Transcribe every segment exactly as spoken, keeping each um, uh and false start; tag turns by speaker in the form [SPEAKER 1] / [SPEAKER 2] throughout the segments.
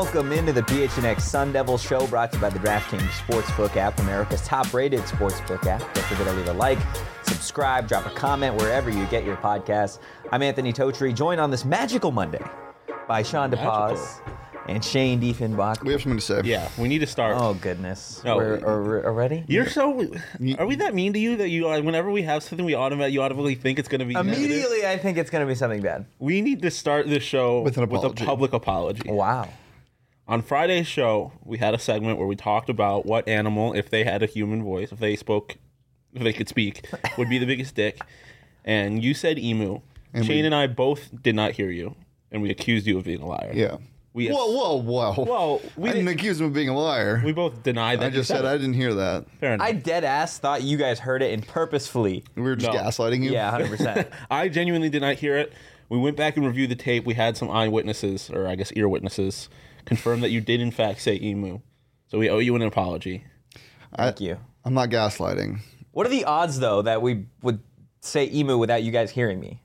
[SPEAKER 1] Welcome into the P H N X Sun Devil Show, brought to you by the DraftKings Sportsbook app, America's top-rated sportsbook app. Don't forget to leave a like, subscribe, drop a comment wherever you get your podcasts. I'm Anthony Totri, joined on this magical Monday by Sean DePaz and Shane Diefenbach.
[SPEAKER 2] We have something to say.
[SPEAKER 3] Yeah, we need to start.
[SPEAKER 1] Oh, goodness.
[SPEAKER 3] No.
[SPEAKER 1] We're, are, already?
[SPEAKER 3] You're so... Are we that mean to you that you, uh, whenever we have something, we automatically, you automatically think it's going to be
[SPEAKER 1] Immediately,
[SPEAKER 3] negative?
[SPEAKER 1] I think it's going to be something bad.
[SPEAKER 3] We need to start this show
[SPEAKER 2] With an
[SPEAKER 3] with a
[SPEAKER 2] apology.
[SPEAKER 3] public apology.
[SPEAKER 1] Wow.
[SPEAKER 3] On Friday's show, we had a segment where we talked about what animal, if they had a human voice, if they spoke, if they could speak, would be the biggest dick. And you said emu.
[SPEAKER 2] And
[SPEAKER 3] Shane
[SPEAKER 2] we-
[SPEAKER 3] and I both did not hear you, and we accused you of being a liar.
[SPEAKER 2] Yeah.
[SPEAKER 3] We
[SPEAKER 2] Whoa, whoa, whoa.
[SPEAKER 3] Well, we
[SPEAKER 2] I didn't
[SPEAKER 3] didn't-
[SPEAKER 2] accuse him of being a liar.
[SPEAKER 3] We both denied that.
[SPEAKER 2] I
[SPEAKER 3] you
[SPEAKER 2] just said
[SPEAKER 3] it.
[SPEAKER 2] I didn't hear that.
[SPEAKER 3] Fair enough.
[SPEAKER 1] I dead ass thought you guys heard it and purposefully.
[SPEAKER 2] We were just
[SPEAKER 3] No.
[SPEAKER 2] gaslighting you?
[SPEAKER 1] Yeah, one hundred percent.
[SPEAKER 3] I genuinely did not hear it. We went back and reviewed the tape. We had some eyewitnesses, or I guess ear witnesses, confirm that you did in fact say emu. So we owe you an apology.
[SPEAKER 1] Thank you.
[SPEAKER 2] I'm not gaslighting.
[SPEAKER 1] What are the odds, though, that we would say emu without you guys hearing me?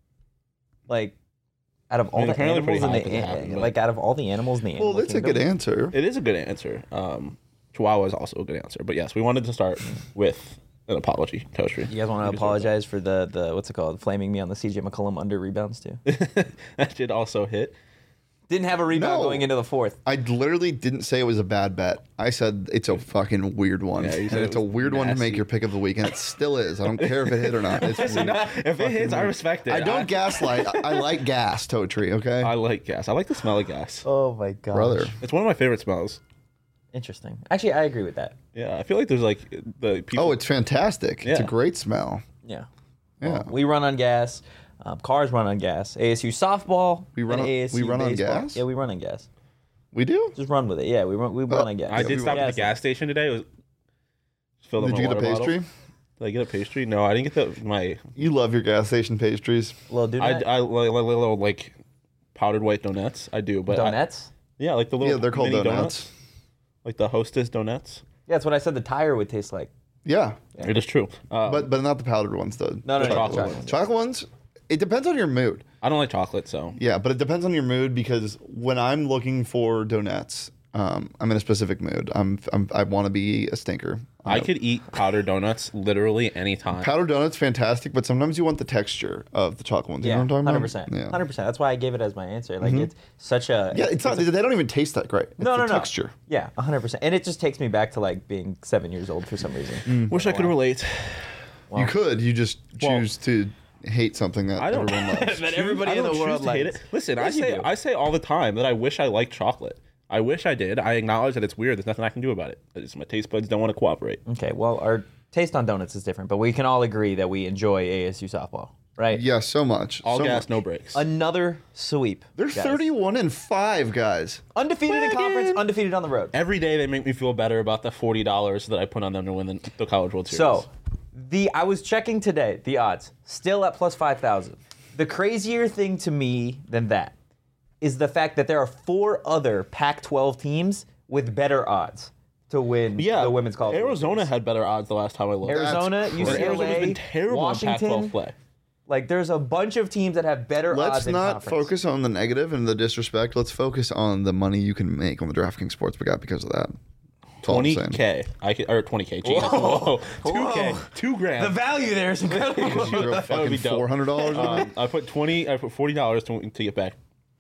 [SPEAKER 1] Like, out of all
[SPEAKER 3] mean,
[SPEAKER 1] the
[SPEAKER 3] apparently
[SPEAKER 1] animals
[SPEAKER 3] pretty
[SPEAKER 1] in
[SPEAKER 3] high
[SPEAKER 1] the
[SPEAKER 3] for that happened, but-
[SPEAKER 1] like out of all the animals in the
[SPEAKER 2] Well,
[SPEAKER 1] animal
[SPEAKER 2] that's a good
[SPEAKER 1] kingdom,
[SPEAKER 2] answer.
[SPEAKER 3] It is a good answer. Um, Chihuahua is also a good answer. But yes, we wanted to start with an apology, Toastry.
[SPEAKER 1] You guys want to apologize for the the what's it called? Flaming me on the C J McCollum under rebounds too.
[SPEAKER 3] That did also hit.
[SPEAKER 1] Didn't have a rebound
[SPEAKER 2] No.
[SPEAKER 1] going into the fourth.
[SPEAKER 2] I literally didn't say it was a bad bet. I said it's a fucking weird one.
[SPEAKER 3] Yeah, you
[SPEAKER 2] and
[SPEAKER 3] said it
[SPEAKER 2] it's a
[SPEAKER 3] was
[SPEAKER 2] weird one to make
[SPEAKER 3] nasty.
[SPEAKER 2] your pick of the week, and it still is. I don't care if it hit or not. It's
[SPEAKER 3] Listen,
[SPEAKER 2] weird.
[SPEAKER 3] if it hits, I respect it.
[SPEAKER 2] I don't gaslight. I, I like gas, Totri, okay?
[SPEAKER 3] I like gas. I like the smell of gas.
[SPEAKER 1] Oh my god,
[SPEAKER 2] Brother.
[SPEAKER 3] It's one of my favorite smells.
[SPEAKER 1] Interesting. Actually, I agree with that.
[SPEAKER 3] Yeah, I feel like there's like the people.
[SPEAKER 2] Oh, it's fantastic. It's a
[SPEAKER 3] Yeah.
[SPEAKER 2] great smell.
[SPEAKER 1] Yeah.
[SPEAKER 2] Yeah.
[SPEAKER 1] Well, we run on gas. Um, cars run on gas. A S U softball.
[SPEAKER 2] We run
[SPEAKER 1] and
[SPEAKER 2] on-
[SPEAKER 1] A S U
[SPEAKER 2] we run on
[SPEAKER 1] baseball.
[SPEAKER 2] gas?
[SPEAKER 1] Yeah, we run on gas.
[SPEAKER 2] We do?
[SPEAKER 1] Just run with it. Yeah, we run. We run
[SPEAKER 2] Oh,
[SPEAKER 1] on gas.
[SPEAKER 3] I
[SPEAKER 2] Yeah,
[SPEAKER 3] did
[SPEAKER 2] we
[SPEAKER 3] stop
[SPEAKER 2] were-
[SPEAKER 3] at the gas station today. It was filled up
[SPEAKER 2] Did
[SPEAKER 3] my
[SPEAKER 2] you get a
[SPEAKER 3] water bottle.
[SPEAKER 2] pastry?
[SPEAKER 3] Did I get a pastry? No, I didn't get the my.
[SPEAKER 2] You love your gas station pastries.
[SPEAKER 1] Little donut.
[SPEAKER 3] I, I like, like little like powdered white donuts. I do, but I-
[SPEAKER 1] Donuts.
[SPEAKER 3] yeah, like the little
[SPEAKER 2] Yeah, they're called
[SPEAKER 3] mini
[SPEAKER 2] donuts.
[SPEAKER 3] like the Hostess donuts.
[SPEAKER 1] Yeah, that's what I said. The tire would taste like.
[SPEAKER 2] Yeah.
[SPEAKER 3] It is true. Uh,
[SPEAKER 2] But but not the powdered ones, though.
[SPEAKER 1] No, no,
[SPEAKER 3] The
[SPEAKER 1] no.
[SPEAKER 3] chocolate
[SPEAKER 1] chocolate.
[SPEAKER 3] ones.
[SPEAKER 2] Chocolate ones, it depends on your mood.
[SPEAKER 3] I don't like chocolate, so
[SPEAKER 2] Yeah, but it depends on your mood because when I'm looking for donuts, um, I'm in a specific mood. I'm, I'm I want to be a stinker.
[SPEAKER 3] I could eat powdered donuts literally anytime.
[SPEAKER 2] Powdered donuts, fantastic, but sometimes you want the texture of the chocolate ones. You
[SPEAKER 1] Yeah,
[SPEAKER 2] know what I'm talking
[SPEAKER 1] hundred
[SPEAKER 2] about?
[SPEAKER 1] percent,
[SPEAKER 2] Yeah.
[SPEAKER 1] hundred percent. That's why I gave it as my answer. Like it's such a
[SPEAKER 2] Yeah, it's not. They don't even taste that great. It's
[SPEAKER 1] no,
[SPEAKER 2] the
[SPEAKER 1] no, no
[SPEAKER 2] texture.
[SPEAKER 1] Yeah, hundred percent. And it just takes me back to like being seven years old for some reason.
[SPEAKER 3] Wish I could relate.
[SPEAKER 2] You could. You just choose to hate something that
[SPEAKER 3] I don't-
[SPEAKER 2] everyone loves.
[SPEAKER 1] That everybody
[SPEAKER 3] I
[SPEAKER 1] in the
[SPEAKER 3] don't
[SPEAKER 1] world
[SPEAKER 3] choose to hate
[SPEAKER 1] likes.
[SPEAKER 3] it. Listen, I
[SPEAKER 1] Yes, you
[SPEAKER 3] say
[SPEAKER 1] do.
[SPEAKER 3] I say all the time that I wish I liked chocolate. I wish I did. I acknowledge that it's weird. There's nothing I can do about it. It's, my taste buds don't want to cooperate.
[SPEAKER 1] Okay, well, our taste on donuts is different, but we can all agree that we enjoy A S U softball, right?
[SPEAKER 2] Yeah, so much.
[SPEAKER 3] All
[SPEAKER 2] so
[SPEAKER 3] gas,
[SPEAKER 2] much.
[SPEAKER 3] no brakes.
[SPEAKER 1] Another sweep.
[SPEAKER 2] They're
[SPEAKER 1] guys.
[SPEAKER 2] thirty-one and five, guys.
[SPEAKER 1] Undefeated in conference, undefeated on the road.
[SPEAKER 3] Every day they make me feel better about the forty dollars that I put on them to win the, the College World Series.
[SPEAKER 1] So, the I was checking today, the odds, still at plus five thousand. The crazier thing to me than that is the fact that there are four other Pac twelve teams with better odds to win
[SPEAKER 3] yeah,
[SPEAKER 1] the Women's College World
[SPEAKER 3] Arizona
[SPEAKER 1] Series.
[SPEAKER 3] had better odds the last time I looked.
[SPEAKER 1] Arizona,
[SPEAKER 2] That's
[SPEAKER 1] U C L A,
[SPEAKER 2] crazy.
[SPEAKER 3] Arizona's been terrible in Pac
[SPEAKER 1] Washington.
[SPEAKER 3] twelve play.
[SPEAKER 1] Like, there's a bunch of teams that have better
[SPEAKER 2] Let's
[SPEAKER 1] odds in
[SPEAKER 2] not
[SPEAKER 1] conference.
[SPEAKER 2] focus on the negative and the disrespect. Let's focus on the money you can make on the DraftKings Sportsbook app because of that. That's all I'm
[SPEAKER 3] twenty
[SPEAKER 2] saying.
[SPEAKER 3] K. I could, or twenty K. Geez,
[SPEAKER 1] Whoa.
[SPEAKER 3] Whoa. two K.
[SPEAKER 1] Whoa.
[SPEAKER 3] two grand.
[SPEAKER 1] The value there is incredible.
[SPEAKER 2] You throw
[SPEAKER 3] That would
[SPEAKER 2] fucking
[SPEAKER 3] be dope.
[SPEAKER 2] four hundred dollars on
[SPEAKER 3] Um,
[SPEAKER 2] it.
[SPEAKER 3] I put twenty. I put forty dollars to to get back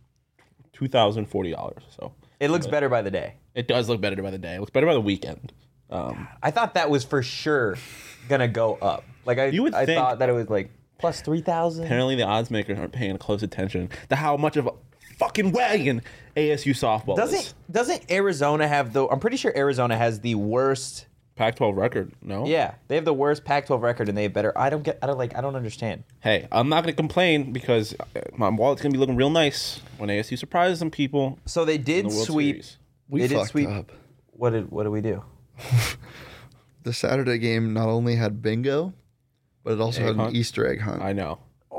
[SPEAKER 3] two thousand forty dollars. So
[SPEAKER 1] It looks better by the day.
[SPEAKER 3] it does look better by the day. It looks better by the weekend. Um,
[SPEAKER 1] I thought that was for sure gonna go up. Like I,
[SPEAKER 3] You would
[SPEAKER 1] I
[SPEAKER 3] think-
[SPEAKER 1] thought that it was like plus three thousand.
[SPEAKER 3] apparently, the odds makers aren't paying close attention to how much of a fucking wagon A S U softball is.
[SPEAKER 1] Doesn't doesn't Arizona have the? I'm pretty sure Arizona has the worst.
[SPEAKER 3] Pac twelve record? No.
[SPEAKER 1] Yeah, they have the worst Pac twelve record, and they have better. I don't get. I don't like. I don't understand.
[SPEAKER 3] Hey, I'm not gonna complain because uh, my wallet's gonna be looking real nice when A S U surprises some people.
[SPEAKER 1] So they
[SPEAKER 3] in
[SPEAKER 1] did
[SPEAKER 3] the World
[SPEAKER 1] sweep.
[SPEAKER 3] Series.
[SPEAKER 2] We
[SPEAKER 1] they did
[SPEAKER 2] fucked
[SPEAKER 1] sweep.
[SPEAKER 2] up.
[SPEAKER 1] What did What did we do?
[SPEAKER 2] The Saturday game not only had bingo, but it also
[SPEAKER 3] Egg
[SPEAKER 2] had
[SPEAKER 3] hunt?
[SPEAKER 2] an Easter egg hunt.
[SPEAKER 3] I know.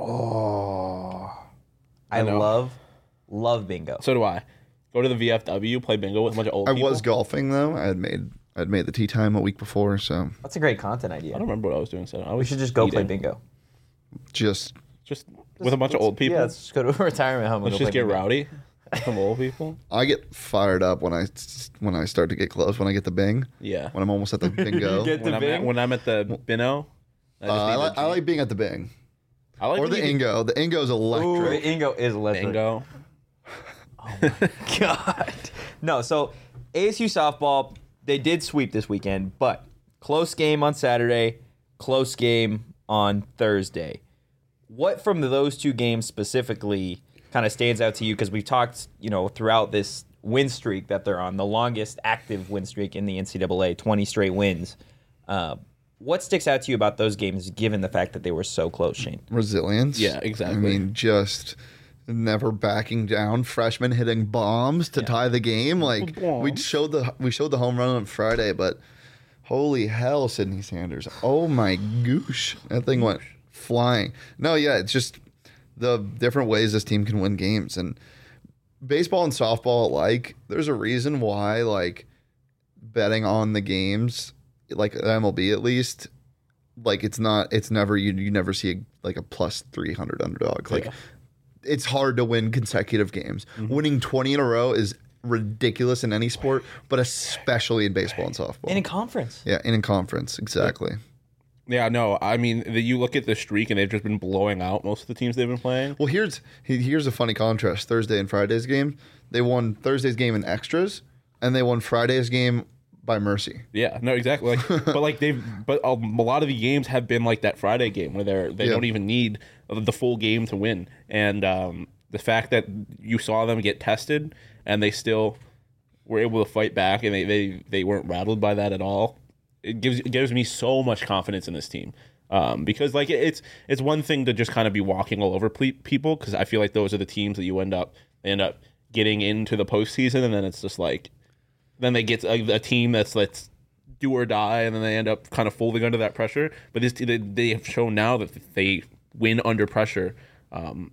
[SPEAKER 1] Oh, I,
[SPEAKER 3] I know.
[SPEAKER 1] love love bingo.
[SPEAKER 3] So do I. Go to the V F W, play bingo with a bunch of old
[SPEAKER 2] I
[SPEAKER 3] people.
[SPEAKER 2] was golfing though. I had made I'd made the tea time a week before, so
[SPEAKER 1] That's a great content idea.
[SPEAKER 3] I don't remember what I was doing. So I was
[SPEAKER 1] We should just go play
[SPEAKER 3] eating.
[SPEAKER 1] bingo.
[SPEAKER 2] just
[SPEAKER 3] Just with a bunch of old people.
[SPEAKER 1] Yeah, let's just go to a retirement home. And
[SPEAKER 3] Let's
[SPEAKER 1] go
[SPEAKER 3] just
[SPEAKER 1] play
[SPEAKER 3] get
[SPEAKER 1] bingo.
[SPEAKER 3] rowdy. Some old people.
[SPEAKER 2] I get fired up when I when I start to get close. When I get the bing.
[SPEAKER 3] Yeah.
[SPEAKER 2] When I'm almost at the bingo.
[SPEAKER 1] Get
[SPEAKER 3] When
[SPEAKER 1] the
[SPEAKER 3] I'm, at,
[SPEAKER 1] bing?
[SPEAKER 3] when I'm at the Bino. I,
[SPEAKER 2] Uh,
[SPEAKER 3] just
[SPEAKER 2] I,
[SPEAKER 3] need
[SPEAKER 2] like,
[SPEAKER 3] the
[SPEAKER 2] I
[SPEAKER 3] G.
[SPEAKER 2] like being at the bing
[SPEAKER 3] I like
[SPEAKER 2] or the
[SPEAKER 3] being-
[SPEAKER 2] Ingo. The Ingo's
[SPEAKER 1] Ooh,
[SPEAKER 2] electric.
[SPEAKER 1] the Ingo is electric.
[SPEAKER 3] Bingo.
[SPEAKER 1] God. No, so A S U softball, they did sweep this weekend, but close game on Saturday, close game on Thursday. What from those two games specifically kind of stands out to you? Because we've talked, you know, throughout this win streak that they're on, the longest active win streak in the N C double A, twenty straight wins. Uh, what sticks out to you about those games, given the fact that they were so close, Shane?
[SPEAKER 2] Resilience.
[SPEAKER 3] Yeah, exactly.
[SPEAKER 2] I mean, just never backing down. Freshmen hitting bombs to tie the game. Like we
[SPEAKER 3] Bombs.
[SPEAKER 2] showed the we showed the home run on Friday, but holy hell, Sydney Sanders! Oh my goosh, that thing went flying. No, yeah, it's just the different ways this team can win games, and baseball and softball alike. There's a reason why like betting on the games, like M L B at least. Like it's not, it's never you. You never see a, like a plus three hundred underdog. Like
[SPEAKER 3] Yeah.
[SPEAKER 2] it's hard to win consecutive games. Winning twenty in a row is ridiculous in any sport, but especially in baseball and softball.
[SPEAKER 1] And in conference.
[SPEAKER 2] yeah, and in conference, exactly.
[SPEAKER 3] Yeah, no, I mean, the, you look at the streak and they've just been blowing out most of the teams they've been playing.
[SPEAKER 2] Well, here's he- here's a funny contrast. Thursday and Friday's game, they won Thursday's game in extras, and they won Friday's game by mercy.
[SPEAKER 3] Yeah, no, exactly. Like, but like they've, but a, a lot of the games have been like that Friday game where they're they
[SPEAKER 2] Yeah.
[SPEAKER 3] don't even need the full game to win. And um, the fact that you saw them get tested and they still were able to fight back and they they, they weren't rattled by that at all. It gives it gives me so much confidence in this team. Um, because like it, it's it's one thing to just kind of be walking all over ple- people because I feel like those are the teams that you end up they end up getting into the postseason and then it's just like then they get a, a team that's let's do or die and then they end up kind of folding under that pressure. But this they, they have shown now that they win under pressure, um,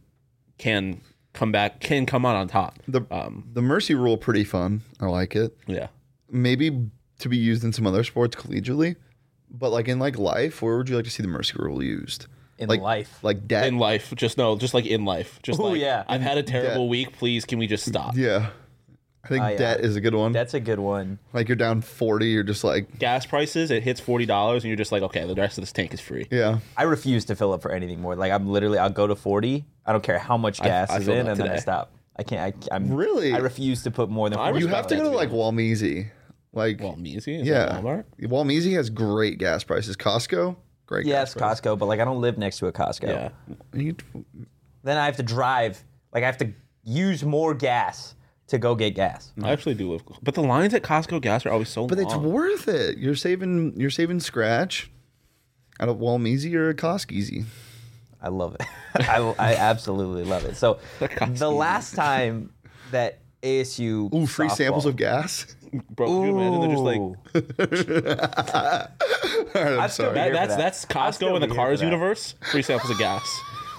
[SPEAKER 3] can come back can come out on top.
[SPEAKER 2] The
[SPEAKER 3] Um,
[SPEAKER 2] the mercy rule pretty fun. I like it.
[SPEAKER 3] yeah.
[SPEAKER 2] Maybe to be used in some other sports collegially, but like in like life, where would you like to see the mercy rule used?
[SPEAKER 1] In
[SPEAKER 2] like,
[SPEAKER 1] life.
[SPEAKER 2] like debt.
[SPEAKER 3] In life, just no, just like in life, just
[SPEAKER 1] Ooh,
[SPEAKER 3] like
[SPEAKER 1] yeah.
[SPEAKER 3] I've had a terrible
[SPEAKER 2] debt.
[SPEAKER 3] week. Please, can we just stop?
[SPEAKER 2] yeah, I think
[SPEAKER 1] Ah, yeah.
[SPEAKER 2] debt is a good one.
[SPEAKER 1] That's a good one.
[SPEAKER 2] Like you're down forty, you're just like,
[SPEAKER 3] Gas prices, it hits forty dollars, and you're just like, okay, the rest of this tank is free.
[SPEAKER 2] yeah.
[SPEAKER 1] I refuse to fill up for anything more. Like I'm literally, I'll go to forty. I don't care how much gas
[SPEAKER 3] I
[SPEAKER 1] is
[SPEAKER 3] filled
[SPEAKER 1] in,
[SPEAKER 3] up
[SPEAKER 1] and then I
[SPEAKER 3] today.
[SPEAKER 1] stop. I can't. I, I'm
[SPEAKER 2] Really?
[SPEAKER 1] I refuse to put more than.
[SPEAKER 3] I
[SPEAKER 1] forty
[SPEAKER 2] You
[SPEAKER 3] respect
[SPEAKER 2] have to
[SPEAKER 3] that,
[SPEAKER 2] go to
[SPEAKER 3] to be
[SPEAKER 2] like Walmeasy. Like,
[SPEAKER 3] Well, Measy, is
[SPEAKER 2] yeah,
[SPEAKER 3] that Walmart?
[SPEAKER 2] Walmeasy has great gas prices. Costco, great.
[SPEAKER 1] Yes,
[SPEAKER 2] gas prices.
[SPEAKER 1] Costco, but like I don't live next to a Costco.
[SPEAKER 3] Yeah.
[SPEAKER 2] You-
[SPEAKER 1] Then I have to drive. Like I have to use more gas to go get gas.
[SPEAKER 3] I actually do live, but the lines at Costco gas are always so
[SPEAKER 2] But it's
[SPEAKER 3] long.
[SPEAKER 2] worth it. You're saving. You're saving scratch out of Walmeasy or a Costco.
[SPEAKER 1] I love it. I, I absolutely love it. So
[SPEAKER 3] Costco.
[SPEAKER 1] the last time that A S U
[SPEAKER 2] Ooh, free
[SPEAKER 1] softball-
[SPEAKER 2] samples of gas.
[SPEAKER 3] Bro, can you imagine? They're just like
[SPEAKER 1] Ooh.
[SPEAKER 2] All right, I'm
[SPEAKER 1] I'd still
[SPEAKER 2] sorry.
[SPEAKER 1] be
[SPEAKER 3] that,
[SPEAKER 1] here for
[SPEAKER 3] that's
[SPEAKER 1] that.
[SPEAKER 3] that's
[SPEAKER 1] I'd still
[SPEAKER 3] Costco in the
[SPEAKER 1] be here
[SPEAKER 3] Cars
[SPEAKER 1] for that.
[SPEAKER 3] universe. Free samples of gas.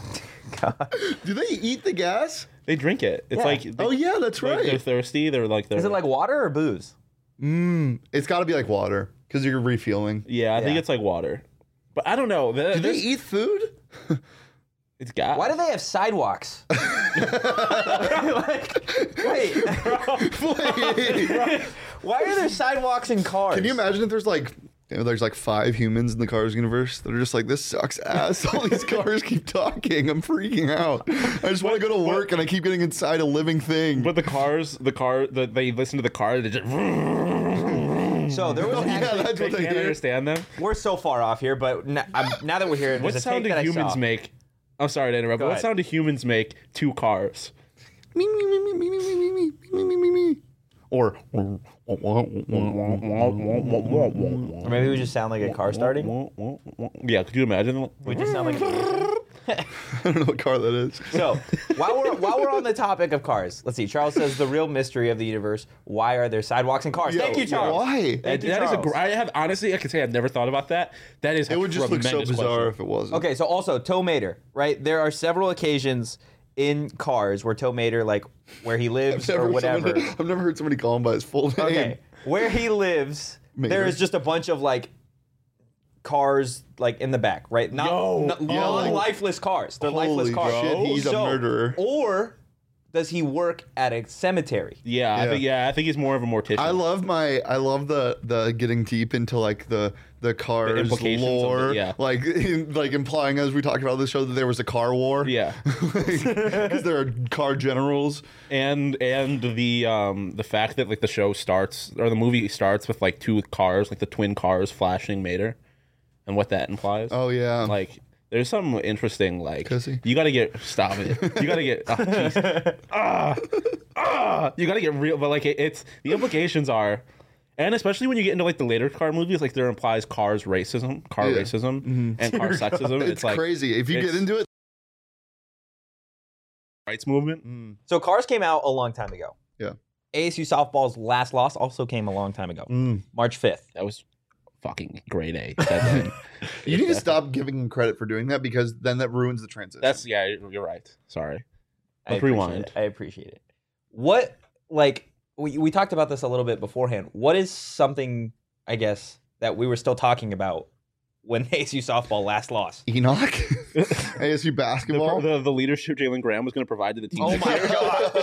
[SPEAKER 2] Do they eat the gas?
[SPEAKER 3] They drink it. It's
[SPEAKER 1] Yeah.
[SPEAKER 3] like they,
[SPEAKER 2] Oh yeah, that's
[SPEAKER 3] like, they're
[SPEAKER 2] right.
[SPEAKER 3] thirsty. They're like they're
[SPEAKER 1] Is it like water or booze?
[SPEAKER 2] Mm, it's got to be like water because you're refueling.
[SPEAKER 3] yeah. I think
[SPEAKER 1] Yeah.
[SPEAKER 3] it's like water, but I don't know. The-
[SPEAKER 2] Do they
[SPEAKER 3] this-
[SPEAKER 2] eat food?
[SPEAKER 3] It's gas.
[SPEAKER 1] Why do they have sidewalks? like, wait,
[SPEAKER 2] Wait.
[SPEAKER 1] why are there sidewalks in cars?
[SPEAKER 2] Can you imagine if there's like you know, there's like five humans in the Cars universe that are just like, this sucks ass. All these cars keep talking. I'm freaking out. I just want to go to work and I keep getting inside a living thing.
[SPEAKER 3] But the cars, the car, the, they listen to the car. They just.
[SPEAKER 1] So there was
[SPEAKER 2] Oh, yeah,
[SPEAKER 1] actually,
[SPEAKER 2] that's
[SPEAKER 3] They
[SPEAKER 2] what they
[SPEAKER 3] can't
[SPEAKER 2] hear.
[SPEAKER 3] understand them.
[SPEAKER 1] we're so far off here, but n- I'm, now that we're here,
[SPEAKER 3] What
[SPEAKER 1] there's a
[SPEAKER 3] sound
[SPEAKER 1] take
[SPEAKER 3] do
[SPEAKER 1] that I
[SPEAKER 3] humans
[SPEAKER 1] saw.
[SPEAKER 3] make? I'm sorry to interrupt.
[SPEAKER 1] Go
[SPEAKER 3] But what
[SPEAKER 1] ahead.
[SPEAKER 3] sound do humans make to cars?
[SPEAKER 2] Me, me, me, me, me, me, me, me, me, me, me, me. Or
[SPEAKER 1] Or maybe we just sound like a car starting.
[SPEAKER 3] Yeah, could you imagine?
[SPEAKER 1] We just sound like. A-
[SPEAKER 2] I don't know what car that is.
[SPEAKER 1] so while we're while we're on the topic of cars, let's see. Charles says the real mystery of the universe: why are there sidewalks and cars?
[SPEAKER 2] Yo,
[SPEAKER 1] Thank you, Charles.
[SPEAKER 2] Why?
[SPEAKER 1] Thank
[SPEAKER 3] That
[SPEAKER 1] you,
[SPEAKER 3] is a.
[SPEAKER 1] Charles.
[SPEAKER 3] Gr- I have honestly, I can say I've never thought about that. That is.
[SPEAKER 2] It would just look so bizarre if it wasn't.
[SPEAKER 1] Okay, so also Tow Mater, right? There are several occasions in cars where Tow Mater, like where he lives
[SPEAKER 2] I've
[SPEAKER 1] or
[SPEAKER 2] never,
[SPEAKER 1] whatever.
[SPEAKER 2] someone, I've never heard somebody call him by his full name.
[SPEAKER 1] Okay, where he lives,
[SPEAKER 2] Mater.
[SPEAKER 1] there is just a bunch of like cars like in the back, right? Not,
[SPEAKER 3] Yo,
[SPEAKER 1] not
[SPEAKER 2] yeah, like-
[SPEAKER 1] lifeless cars. They're
[SPEAKER 2] Holy
[SPEAKER 1] lifeless cars.
[SPEAKER 2] shit, he's a
[SPEAKER 1] So-
[SPEAKER 2] murderer.
[SPEAKER 1] Or does he work at a cemetery?
[SPEAKER 3] Yeah, I
[SPEAKER 2] Yeah.
[SPEAKER 3] think yeah, I think he's more of a mortician.
[SPEAKER 2] I love my I love the the getting deep into like the the cars
[SPEAKER 3] implications of
[SPEAKER 2] lore,
[SPEAKER 3] it, yeah.
[SPEAKER 2] like in, like implying as we talked about this show that there was a car war.
[SPEAKER 3] Yeah.
[SPEAKER 2] Because there are car generals.
[SPEAKER 3] and and the um the fact that like the show starts or the movie starts with like two cars, like the twin cars flashing Mater, and what that implies.
[SPEAKER 2] Oh yeah,
[SPEAKER 3] Like there's some interesting like
[SPEAKER 2] Pussy.
[SPEAKER 3] you gotta get stop it. You gotta get oh, jeez. ah ah. You gotta get real, but like it, it's the implications are, and especially when you get into like the later car movies, like there implies cars racism, car
[SPEAKER 2] Yeah.
[SPEAKER 3] racism, and car sexism.
[SPEAKER 2] it's,
[SPEAKER 3] It's, like
[SPEAKER 2] crazy if you
[SPEAKER 3] it's-
[SPEAKER 2] get into it.
[SPEAKER 3] rights movement.
[SPEAKER 2] Mm.
[SPEAKER 1] So Cars came out a long time ago.
[SPEAKER 2] Yeah.
[SPEAKER 1] A S U softball's last loss also came a long time ago,
[SPEAKER 2] Mm.
[SPEAKER 1] March fifth.
[SPEAKER 3] That was fucking grade A. That
[SPEAKER 2] You need to stop giving him credit for doing that because then that ruins the transition.
[SPEAKER 3] That's yeah. You're right. Sorry.
[SPEAKER 1] I
[SPEAKER 3] Let's
[SPEAKER 1] appreciate
[SPEAKER 3] rewind.
[SPEAKER 1] it. I appreciate it. What, like, we, we talked about this a little bit beforehand. What is something, I guess, that we were still talking about when A S U softball last lost?
[SPEAKER 2] Enoch, A S U
[SPEAKER 3] The,
[SPEAKER 2] basketball.
[SPEAKER 3] the, the leadership Jalen Graham was going to provide to the team.
[SPEAKER 1] Oh
[SPEAKER 3] next
[SPEAKER 1] my
[SPEAKER 3] year.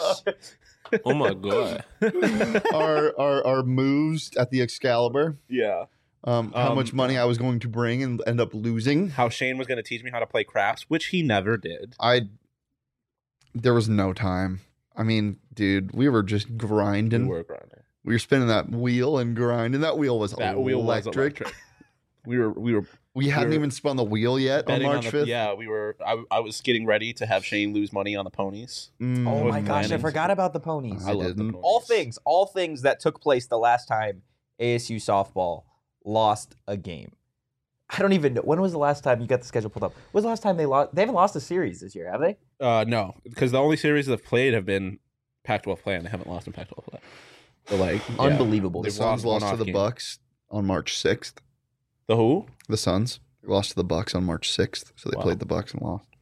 [SPEAKER 1] gosh.
[SPEAKER 4] Oh my god.
[SPEAKER 2] our, our our moves at the Excalibur.
[SPEAKER 3] Yeah.
[SPEAKER 2] Um, how
[SPEAKER 3] Um,
[SPEAKER 2] much money I was going to bring and end up losing.
[SPEAKER 3] How Shane was going to teach me how to play craps, which he never did.
[SPEAKER 2] I there was no time. I mean, dude, we were just grinding.
[SPEAKER 3] We
[SPEAKER 2] We were,
[SPEAKER 3] were grinding.
[SPEAKER 2] spinning that wheel and grinding. That wheel was
[SPEAKER 3] That
[SPEAKER 2] electric.
[SPEAKER 3] wheel was electric. We were we were
[SPEAKER 2] We hadn't
[SPEAKER 3] We were
[SPEAKER 2] even spun the wheel yet on
[SPEAKER 3] betting
[SPEAKER 2] March
[SPEAKER 3] on the,
[SPEAKER 2] fifth.
[SPEAKER 3] yeah. We were. I, I was getting ready to have Shane lose money on the ponies.
[SPEAKER 2] Mm.
[SPEAKER 1] Oh
[SPEAKER 3] was
[SPEAKER 1] my gosh, I
[SPEAKER 3] planning.
[SPEAKER 1] forgot about the ponies.
[SPEAKER 2] I
[SPEAKER 3] I love the
[SPEAKER 2] didn't.
[SPEAKER 3] ponies.
[SPEAKER 1] all things, all things that took place the last time A S U softball lost a game. I don't even know. When was the last time you got the schedule pulled up? When was the last time they lost? They haven't lost a series this year, have they?
[SPEAKER 3] Uh, no, because the only series they've played have been Pac twelve play, and they haven't lost in Pac twelve play. So like, yeah.
[SPEAKER 1] Unbelievable.
[SPEAKER 2] The
[SPEAKER 3] They've
[SPEAKER 2] Suns
[SPEAKER 3] lost
[SPEAKER 2] lost
[SPEAKER 3] one
[SPEAKER 2] to
[SPEAKER 3] off
[SPEAKER 2] the
[SPEAKER 3] game.
[SPEAKER 2] Bucks on March sixth.
[SPEAKER 3] The who?
[SPEAKER 2] The Suns lost to the Bucks on March sixth, so they
[SPEAKER 3] Wow.
[SPEAKER 2] played the Bucks and lost.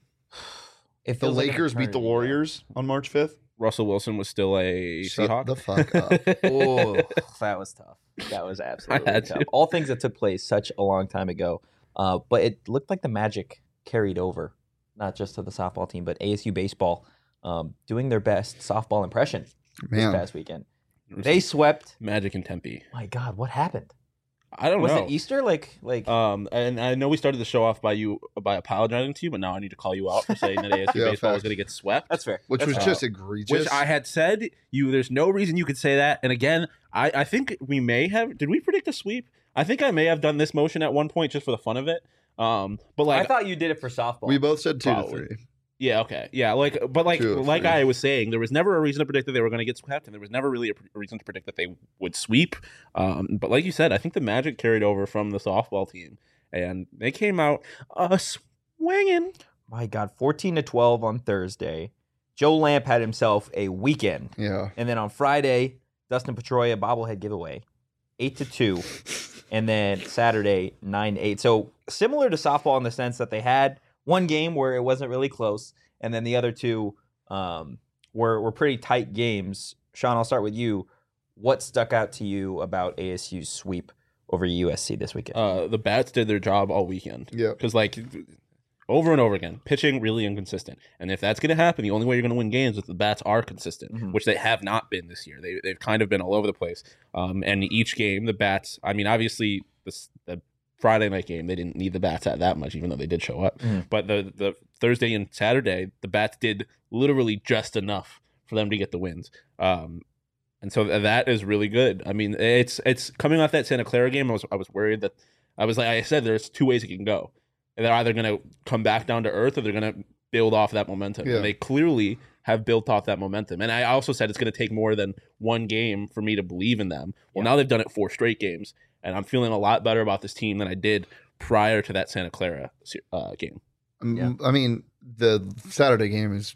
[SPEAKER 1] It
[SPEAKER 2] The
[SPEAKER 1] feels like an
[SPEAKER 2] Lakers beat the
[SPEAKER 1] eternity.
[SPEAKER 2] Warriors on March fifth.
[SPEAKER 3] Russell Wilson was still a
[SPEAKER 2] Shut
[SPEAKER 3] Seahawk.
[SPEAKER 2] the fuck up.
[SPEAKER 1] Oh, that was tough. That was absolutely
[SPEAKER 3] had
[SPEAKER 1] tough.
[SPEAKER 3] to.
[SPEAKER 1] All things that took place such a long time ago. Uh, but it looked like the magic carried over, not just to the softball team, but A S U baseball um, doing their best softball impression this
[SPEAKER 2] Man,
[SPEAKER 1] past weekend. They swept.
[SPEAKER 3] Magic in Tempe.
[SPEAKER 1] My God, what happened?
[SPEAKER 3] I don't
[SPEAKER 1] Was
[SPEAKER 3] know.
[SPEAKER 1] it Easter? Like, like
[SPEAKER 3] Um, and I know we started the show off by you by apologizing to you, but now I need to call you out for saying that A S U
[SPEAKER 2] Yeah,
[SPEAKER 3] baseball is
[SPEAKER 2] facts.
[SPEAKER 3] going to get swept.
[SPEAKER 1] that's fair.
[SPEAKER 2] which
[SPEAKER 1] That's
[SPEAKER 2] was
[SPEAKER 1] fair.
[SPEAKER 2] just egregious.
[SPEAKER 3] Which I had said you. There's no reason you could say that. And again, I I think we may have. Did we predict a sweep? I think I may have done this motion at one point just for the fun of it. Um, but like
[SPEAKER 1] I thought you did it for softball.
[SPEAKER 2] we both said two
[SPEAKER 3] Probably.
[SPEAKER 2] to three.
[SPEAKER 3] Yeah, okay. Yeah, like but like
[SPEAKER 2] Two or
[SPEAKER 3] like
[SPEAKER 2] three.
[SPEAKER 3] I was saying, there was never a reason to predict that they were going to get swept, and there was never really a, a reason to predict that they would sweep. Um, but like you said, I think the Magic carried over from the softball team, and they came out uh, swinging.
[SPEAKER 1] My God, fourteen to twelve on Thursday. Joe Lamp had himself a weekend,
[SPEAKER 2] Yeah.
[SPEAKER 1] and then on Friday, Dustin Pedroia bobblehead giveaway, eight to two, and then Saturday nine to eight. So similar to softball in the sense that they had one game where it wasn't really close, and then the other two um, were were pretty tight games. Sean, I'll start with you. What stuck out to you about A S U's sweep over U S C this weekend?
[SPEAKER 3] Uh, the bats did their job all weekend.
[SPEAKER 2] Yeah.
[SPEAKER 3] Because like over and over again, pitching really inconsistent, and if that's going to happen, the only way you're going to win games is if the bats are consistent,
[SPEAKER 1] Mhm.
[SPEAKER 3] which they have not been this year. They they've kind of been all over the place. Um, and each game, the bats. I mean, obviously the the Friday night game, they didn't need the bats at that much, even though they did show up.
[SPEAKER 1] Mhm.
[SPEAKER 3] But the the Thursday and Saturday, the bats did literally just enough for them to get the wins. Um, and so th- that is really good. I mean, it's it's coming off that Santa Clara game. I was I was worried that I was like I said, there's two ways it can go. And they're either going to come back down to earth or they're going to build off that momentum.
[SPEAKER 2] Yeah.
[SPEAKER 3] And they clearly have built off that momentum. And I also said it's going to take more than one game for me to believe in them. Well,
[SPEAKER 1] Yeah.
[SPEAKER 3] now they've done it four straight games, and I'm feeling a lot better about this team than I did prior to that Santa Clara uh, game.
[SPEAKER 2] Um,
[SPEAKER 1] Yeah.
[SPEAKER 2] I mean, the Saturday game is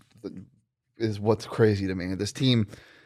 [SPEAKER 2] is what's crazy to me. This team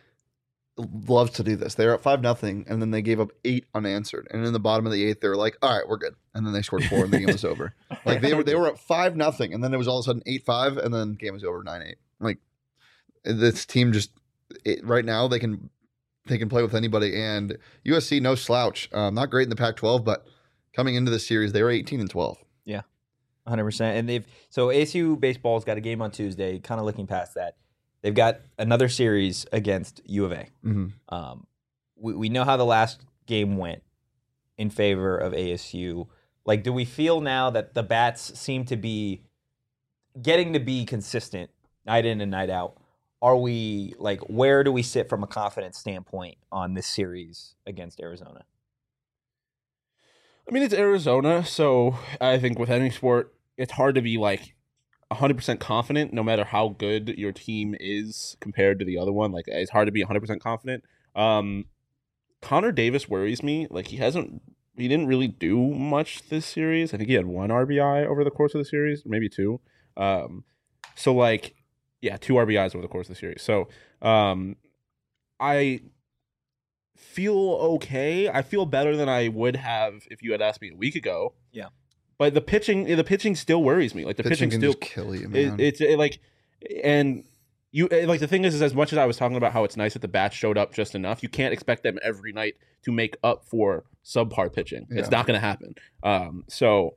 [SPEAKER 2] loves to do this. They're at five nothing, and then they gave up eight unanswered. And in the bottom of the eighth, they were like, "All right, we're good." And then they scored four, and the game was over. Like they were they were at five nothing, and then it was all of a sudden eight five, and then game was over nine eight. Like this team just it, right now they can they can play with anybody. And U S C no slouch. Um, not great in the Pac twelve, but coming into this series, they were eighteen and twelve.
[SPEAKER 1] one hundred percent. And they've so A S U baseball's got a game on Tuesday. Kind of looking past that, they've got another series against U of A.
[SPEAKER 2] Mm-hmm.
[SPEAKER 1] Um, we we know how the last game went in favor of A S U. Like, do we feel now that the bats seem to be getting to be consistent night in and night out? Are we, like, where do we sit from a confidence standpoint on this series against Arizona?
[SPEAKER 3] I mean, it's Arizona, so I think with any sport, it's hard to be, like, one hundred percent confident no matter how good your team is compared to the other one. Like, it's hard to be one hundred percent confident. Um, Connor Davis worries me. Like, he hasn't, he didn't really do much this series. I think he had one R B I over the course of the series, maybe two. Um, so, like, yeah, two R B Is over the course of the series. So, um, I feel okay. I feel better than I would have if you had asked me a week ago.
[SPEAKER 1] Yeah.
[SPEAKER 3] But the pitching, the pitching still worries me. Like the
[SPEAKER 2] Pitching
[SPEAKER 3] pitching,
[SPEAKER 2] can
[SPEAKER 3] still
[SPEAKER 2] just kill you, man.
[SPEAKER 3] It, it's it, like, and you like the thing is, is as much as I was talking about how it's nice that the bats showed up just enough, you can't expect them every night to make up for subpar pitching.
[SPEAKER 2] Yeah.
[SPEAKER 3] It's not going to happen. Um, so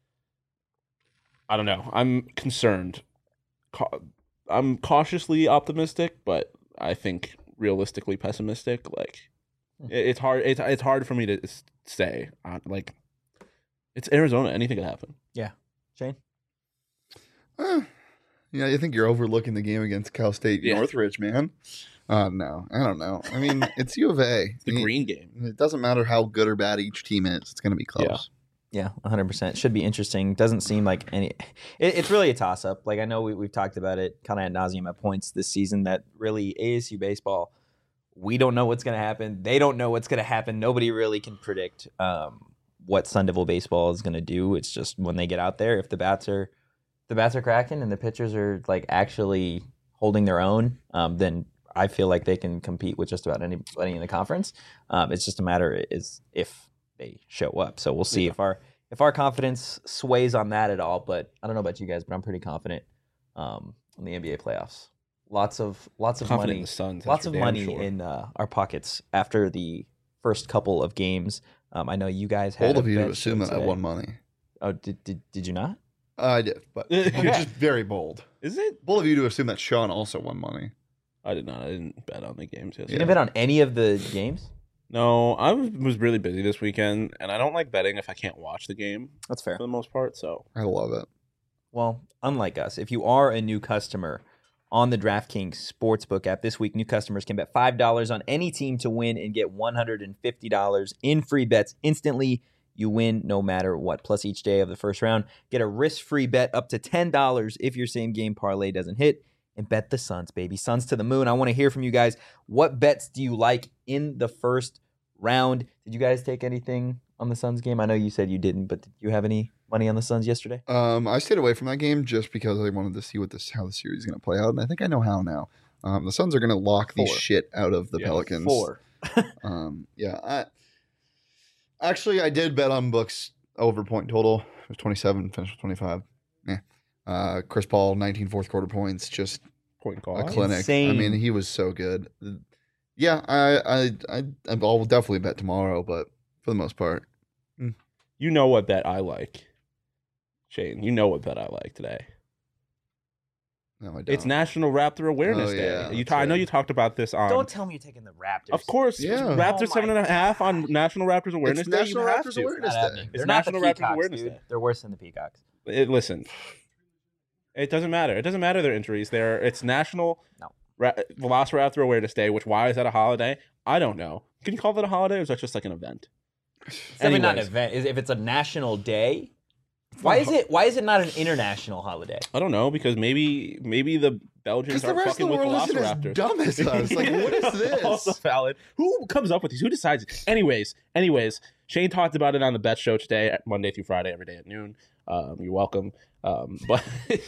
[SPEAKER 3] I don't know. I'm concerned. Ca- I'm cautiously optimistic, but I think realistically pessimistic. Like it, it's hard. It's it's hard for me to s- say. Uh, like it's Arizona. Anything could happen.
[SPEAKER 1] Yeah. Shane?
[SPEAKER 2] Uh, yeah, you think you're overlooking the game against Cal State
[SPEAKER 3] Yeah.
[SPEAKER 2] Northridge, man? Uh, no, I don't know. I mean, it's U of A.
[SPEAKER 3] It's the
[SPEAKER 2] I mean,
[SPEAKER 3] green game.
[SPEAKER 2] It doesn't matter how good or bad each team is. It's going to be close.
[SPEAKER 1] Yeah, one hundred percent. Should be interesting. Doesn't seem like any. It, it's really a toss up. Like, I know we, we've talked about it kind of ad nauseum at points this season that really A S U baseball, we don't know what's going to happen. They don't know what's going to happen. Nobody really can predict um, what Sun Devil baseball is going to do. It's just when they get out there, if the bats are the bats are cracking and the pitchers are like actually holding their own, um, then I feel like they can compete with just about anybody in the conference. Um, it's just a matter is if they show up. So we'll see
[SPEAKER 3] Yeah.
[SPEAKER 1] if our if our confidence sways on that at all. But I don't know about you guys, but I'm pretty confident um, in the N B A playoffs. Lots of lots of
[SPEAKER 3] Confident
[SPEAKER 1] money,
[SPEAKER 3] in the Suns.
[SPEAKER 1] lots
[SPEAKER 3] that's
[SPEAKER 1] of
[SPEAKER 3] for damn
[SPEAKER 1] money
[SPEAKER 3] sure.
[SPEAKER 1] in uh, our pockets after the first couple of games. Um, I know you guys had
[SPEAKER 2] Bold
[SPEAKER 1] a
[SPEAKER 2] of you to
[SPEAKER 1] bet
[SPEAKER 2] assume
[SPEAKER 1] show
[SPEAKER 2] that I
[SPEAKER 1] today.
[SPEAKER 2] won money.
[SPEAKER 1] Oh, did did did you not?
[SPEAKER 2] Uh, I did, but you're just very bold.
[SPEAKER 3] Is it?
[SPEAKER 2] Bold of you to assume that Sean also won money.
[SPEAKER 3] I did not. I didn't bet on the games
[SPEAKER 1] You
[SPEAKER 3] yesterday.
[SPEAKER 1] didn't bet on any of the games?
[SPEAKER 3] No, I was was really busy this weekend, and I don't like betting if I can't watch the game
[SPEAKER 1] That's fair.
[SPEAKER 3] for the most part. So
[SPEAKER 2] I love it.
[SPEAKER 1] Well, unlike us, if you are a new customer on the DraftKings Sportsbook app this week, new customers can bet five dollars on any team to win and get one hundred fifty dollars in free bets instantly. You win no matter what. Plus, each day of the first round, get a risk-free bet up to ten dollars if your same-game parlay doesn't hit. And bet the Suns, baby. Suns to the moon. I want to hear from you guys. What bets do you like in the first round? Did you guys take anything on the Suns game? I know you said you didn't, but did you have any money on the Suns yesterday?
[SPEAKER 2] Um, I stayed away from that game just because I wanted to see what this how the series is going to play out, and I think I know how now. Um, the Suns are going to lock the
[SPEAKER 1] Four.
[SPEAKER 2] shit out of the
[SPEAKER 3] Yeah,
[SPEAKER 2] Pelicans.
[SPEAKER 1] Four.
[SPEAKER 2] Um, yeah. I, actually, I did bet on books over point total. It was twenty-seven, finished with twenty-five. Yeah. Uh, Chris Paul, nineteen fourth quarter points, just
[SPEAKER 3] point
[SPEAKER 2] a
[SPEAKER 3] guard.
[SPEAKER 2] clinic.
[SPEAKER 1] Insane.
[SPEAKER 2] I mean, he was so good. Yeah, I, I, I, I'll definitely bet tomorrow, but for the most part,
[SPEAKER 3] You know what bet I like, Shane. You know what bet I like today.
[SPEAKER 2] no, I don't.
[SPEAKER 3] It's National Raptor Awareness
[SPEAKER 2] Oh,
[SPEAKER 3] Day.
[SPEAKER 2] yeah,
[SPEAKER 3] you
[SPEAKER 2] that's
[SPEAKER 3] ta- I know
[SPEAKER 2] right.
[SPEAKER 3] you talked about this on.
[SPEAKER 1] Don't tell me you're taking the Raptors.
[SPEAKER 3] Of course,
[SPEAKER 2] Yeah.
[SPEAKER 3] Raptor
[SPEAKER 1] Oh
[SPEAKER 3] seven
[SPEAKER 1] my
[SPEAKER 3] and a half on National Raptors Awareness
[SPEAKER 2] It's
[SPEAKER 3] Day.
[SPEAKER 2] National
[SPEAKER 3] you have
[SPEAKER 2] Raptors
[SPEAKER 3] to.
[SPEAKER 2] Awareness
[SPEAKER 1] Not
[SPEAKER 2] Day.
[SPEAKER 1] happening.
[SPEAKER 3] It's
[SPEAKER 1] They're not the
[SPEAKER 3] National Raptors
[SPEAKER 1] Peacocks,
[SPEAKER 3] Awareness
[SPEAKER 1] dude.
[SPEAKER 3] Day.
[SPEAKER 1] They're worse than the Peacocks.
[SPEAKER 3] It, listen, it doesn't matter. It doesn't matter their injuries. They're it's National
[SPEAKER 1] No.
[SPEAKER 3] Ra- Velociraptor Awareness Day. Which why is that a holiday? I don't know. Can you call that a holiday, or is that just like an event?
[SPEAKER 1] It's definitely not an
[SPEAKER 3] Anyways.
[SPEAKER 1] event. Is- If it's a national day, why is it? Why is it not an international holiday?
[SPEAKER 3] I don't know because maybe maybe the Belgians
[SPEAKER 2] Because the
[SPEAKER 3] are
[SPEAKER 2] rest of
[SPEAKER 3] fucking
[SPEAKER 2] the
[SPEAKER 3] with
[SPEAKER 2] world isn't as
[SPEAKER 3] Velociraptors.
[SPEAKER 2] dumb as us. Like, what is this?
[SPEAKER 3] Also valid. Who comes up with these? Who decides it? Anyways, anyways, Shane talked about it on the Bet Show today, Monday through Friday, every day at noon. Um, you're welcome. Um, but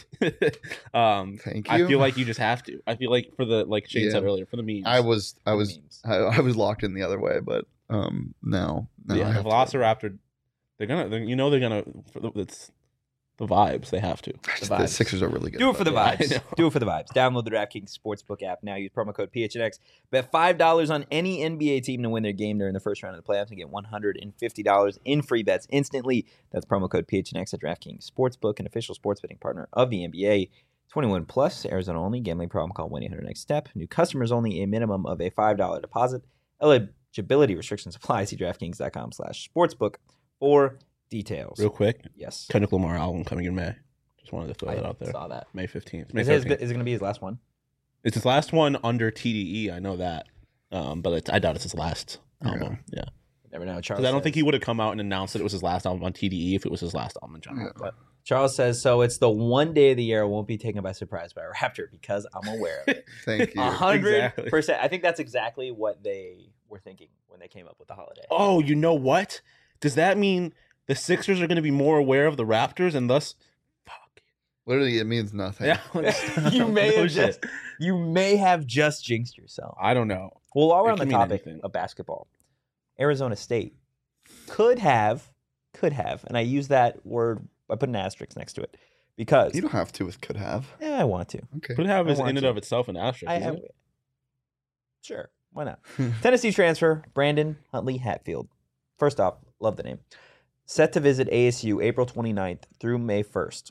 [SPEAKER 3] um,
[SPEAKER 2] Thank
[SPEAKER 3] I
[SPEAKER 2] you.
[SPEAKER 3] feel like you just have to. I feel like for the like Shane
[SPEAKER 2] Yeah.
[SPEAKER 3] said earlier, for the memes.
[SPEAKER 2] I was, I
[SPEAKER 1] The
[SPEAKER 2] was,
[SPEAKER 1] memes.
[SPEAKER 2] I, I was locked in the other way, but um, no, no, I
[SPEAKER 3] yeah, the
[SPEAKER 2] have to.
[SPEAKER 3] Velociraptor. They're gonna. They're, you know they're gonna. For the, it's the vibes. They have to.
[SPEAKER 2] The,
[SPEAKER 1] vibes.
[SPEAKER 2] Sixers are really good.
[SPEAKER 1] Do it for the
[SPEAKER 2] but-
[SPEAKER 3] Yeah, I
[SPEAKER 1] vibes.
[SPEAKER 3] know.
[SPEAKER 1] Do it for the vibes. Download the DraftKings Sportsbook app now. Use promo code P H N X. Bet five dollars on any N B A team to win their game during the first round of the playoffs and get one hundred fifty dollars in free bets instantly. That's promo code P H N X at DraftKings Sportsbook, an official sports betting partner of the N B A. twenty-one plus, Arizona only. Gambling problem, call one eight hundred next step. New customers only. A minimum of a five dollars deposit. Eligibility restrictions apply. See DraftKings.com slash sportsbook for details.
[SPEAKER 3] Real quick,
[SPEAKER 1] Yes.
[SPEAKER 3] Kendrick Lamar album coming in May. Just wanted to throw
[SPEAKER 1] I
[SPEAKER 3] that out there.
[SPEAKER 1] saw that.
[SPEAKER 3] May fifteenth. May
[SPEAKER 1] Is it, his-
[SPEAKER 3] thirteenth.
[SPEAKER 1] is it going to be his last one?
[SPEAKER 3] It's his last one under T D E. I know that, um, but it's, I doubt it's his last
[SPEAKER 2] Yeah.
[SPEAKER 3] album. Yeah,
[SPEAKER 1] Never know. Charles
[SPEAKER 3] because I don't
[SPEAKER 1] says-
[SPEAKER 3] think he would have come out and announced that it was his last album on T D E if it was his last album in general.
[SPEAKER 2] Yeah.
[SPEAKER 3] But
[SPEAKER 1] Charles says, so it's the one day of the year I won't be taken by surprise by a Raptor because I'm aware of it.
[SPEAKER 2] Thank you.
[SPEAKER 1] A hundred
[SPEAKER 3] Exactly.
[SPEAKER 1] percent. I think that's exactly what they were thinking when they came up with the holiday.
[SPEAKER 3] oh, you know what? Does that mean the Sixers are going to be more aware of the Raptors and thus? Fuck.
[SPEAKER 2] Literally, it means nothing.
[SPEAKER 3] Yeah,
[SPEAKER 1] you may
[SPEAKER 3] No
[SPEAKER 1] have
[SPEAKER 3] shit.
[SPEAKER 1] just you may have just jinxed yourself.
[SPEAKER 3] I don't know.
[SPEAKER 1] Well, while we're
[SPEAKER 3] It
[SPEAKER 1] on the
[SPEAKER 3] can mean
[SPEAKER 1] topic
[SPEAKER 3] anything.
[SPEAKER 1] of basketball, Arizona State could have, could have, and I use that word. I put an asterisk next to it because
[SPEAKER 2] You don't have to with could have.
[SPEAKER 1] yeah, I want to.
[SPEAKER 2] Okay.
[SPEAKER 3] Could have
[SPEAKER 1] I
[SPEAKER 3] is
[SPEAKER 1] want
[SPEAKER 3] in and
[SPEAKER 1] to.
[SPEAKER 3] of itself an asterisk.
[SPEAKER 1] I,
[SPEAKER 3] isn't
[SPEAKER 1] I,
[SPEAKER 3] it?
[SPEAKER 1] sure, why not? Tennessee transfer Brandon Huntley Hatfield. First off, love the name. Set to visit A S U April twenty-ninth through May first.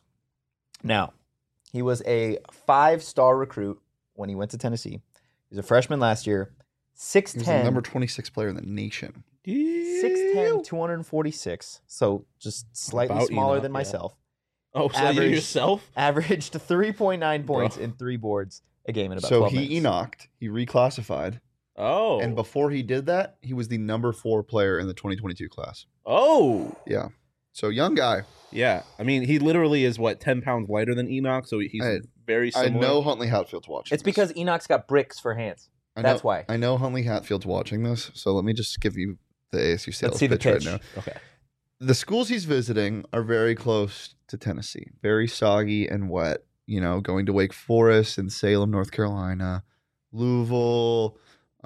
[SPEAKER 1] Now, he was a five-star recruit when he went to Tennessee. He was a freshman last year.
[SPEAKER 2] He was the
[SPEAKER 1] six
[SPEAKER 2] number twenty-six player in the nation.
[SPEAKER 1] six ten, two hundred forty-six. So just slightly
[SPEAKER 3] About
[SPEAKER 1] smaller
[SPEAKER 3] Enoch,
[SPEAKER 1] than
[SPEAKER 3] yeah.
[SPEAKER 1] myself.
[SPEAKER 3] Oh, so you
[SPEAKER 1] Average-
[SPEAKER 3] yourself?
[SPEAKER 1] Averaged three point nine
[SPEAKER 3] Bro.
[SPEAKER 1] points in three boards a game in about
[SPEAKER 2] So
[SPEAKER 1] twelve
[SPEAKER 2] he
[SPEAKER 1] minutes.
[SPEAKER 2] Enoch'd, he reclassified,
[SPEAKER 3] Oh,
[SPEAKER 2] and before he did that, he was the number four player in the twenty twenty-two class.
[SPEAKER 3] oh,
[SPEAKER 2] Yeah. So young guy.
[SPEAKER 3] yeah. I mean, he literally is what ten pounds lighter than Enoch, so he's
[SPEAKER 2] I-
[SPEAKER 3] very
[SPEAKER 2] I
[SPEAKER 3] similar.
[SPEAKER 2] know Huntley Hatfield's watching.
[SPEAKER 1] It's
[SPEAKER 2] this.
[SPEAKER 1] because Enoch's got bricks for hands.
[SPEAKER 2] I know,
[SPEAKER 1] That's why.
[SPEAKER 2] I know Huntley Hatfield's watching this, so let me just give you the A S U sales
[SPEAKER 1] Let's see the
[SPEAKER 2] pitch,
[SPEAKER 1] pitch.
[SPEAKER 2] right now.
[SPEAKER 3] Okay.
[SPEAKER 2] The schools he's visiting are very close to Tennessee, very soggy and wet. You know, going to Wake Forest and Salem, North Carolina, Louisville,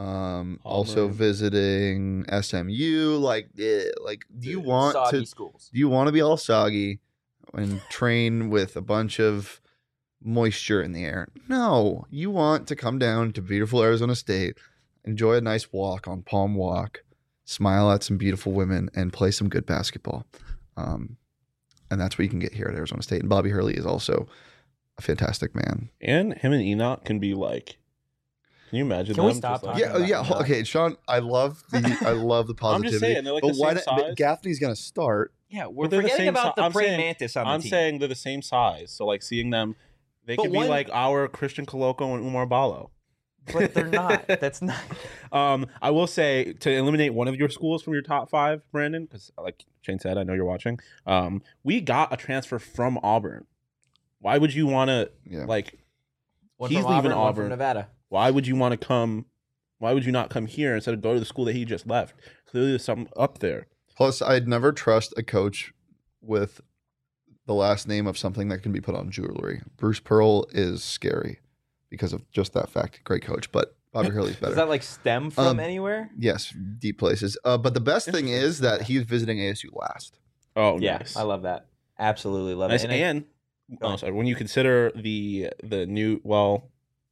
[SPEAKER 2] um, also
[SPEAKER 3] Auburn.
[SPEAKER 2] visiting S M U. Like, eh, like, do you want
[SPEAKER 1] Soggy
[SPEAKER 2] to?
[SPEAKER 1] schools.
[SPEAKER 2] Do you want to be all soggy and train with a bunch of moisture in the air? No, you want to come down to beautiful Arizona State, enjoy a nice walk on Palm Walk, smile at some beautiful women, and play some good basketball. Um, and that's what you can get here at Arizona State. And Bobby Hurley is also a fantastic man.
[SPEAKER 3] And him and Enoch can be like. Can you imagine?
[SPEAKER 1] Can we
[SPEAKER 3] them
[SPEAKER 1] stop
[SPEAKER 3] just, like-
[SPEAKER 2] Yeah,
[SPEAKER 1] talking
[SPEAKER 2] oh, yeah.
[SPEAKER 1] about
[SPEAKER 2] ho-
[SPEAKER 1] that.
[SPEAKER 2] Okay, Sean, I love the I love the
[SPEAKER 3] I'm
[SPEAKER 2] positivity.
[SPEAKER 3] just saying, they're like
[SPEAKER 2] but
[SPEAKER 3] the
[SPEAKER 2] why
[SPEAKER 3] same
[SPEAKER 2] not- but
[SPEAKER 3] size.
[SPEAKER 2] Gaffney's going to start.
[SPEAKER 1] Yeah,
[SPEAKER 3] But
[SPEAKER 1] we're
[SPEAKER 3] they're the
[SPEAKER 1] forgetting
[SPEAKER 3] same
[SPEAKER 1] about
[SPEAKER 3] si-
[SPEAKER 1] the
[SPEAKER 3] I'm
[SPEAKER 1] praying
[SPEAKER 3] saying-
[SPEAKER 1] mantis on the
[SPEAKER 3] I'm
[SPEAKER 1] team.
[SPEAKER 3] saying they're the same size, so like seeing them, they
[SPEAKER 1] But
[SPEAKER 3] could
[SPEAKER 1] one-
[SPEAKER 3] be like our Christian Coloco and Umar Ballo.
[SPEAKER 1] But they're not. That's not.
[SPEAKER 3] Um, I will say to eliminate one of your schools from your top five, Brandon, because like Shane said, I know you're watching. Um, we got a transfer from Auburn. Why would you want to
[SPEAKER 2] Yeah.
[SPEAKER 3] like?
[SPEAKER 1] One
[SPEAKER 3] He's
[SPEAKER 1] from
[SPEAKER 3] leaving
[SPEAKER 1] Auburn, one
[SPEAKER 3] Auburn.
[SPEAKER 1] from Nevada.
[SPEAKER 3] Why would you want to come? Why would you not come here instead of go to the school that he just left? Clearly, there's something up there.
[SPEAKER 2] Plus, I'd never trust a coach with the last name of something that can be put on jewelry. Bruce Pearl is scary because of just that fact. Great coach, but Bobby Hurley's better.
[SPEAKER 1] Does that like stem from
[SPEAKER 2] Um,
[SPEAKER 1] anywhere?
[SPEAKER 2] Yes, deep places. Uh, but the best thing
[SPEAKER 3] Interesting.
[SPEAKER 2] is that he's visiting A S U last.
[SPEAKER 3] Oh,
[SPEAKER 1] Yeah,
[SPEAKER 3] nice.
[SPEAKER 1] I love that. Absolutely love
[SPEAKER 3] Nice.
[SPEAKER 1] it. And I-
[SPEAKER 3] And, oh, sorry, when you consider the the new well,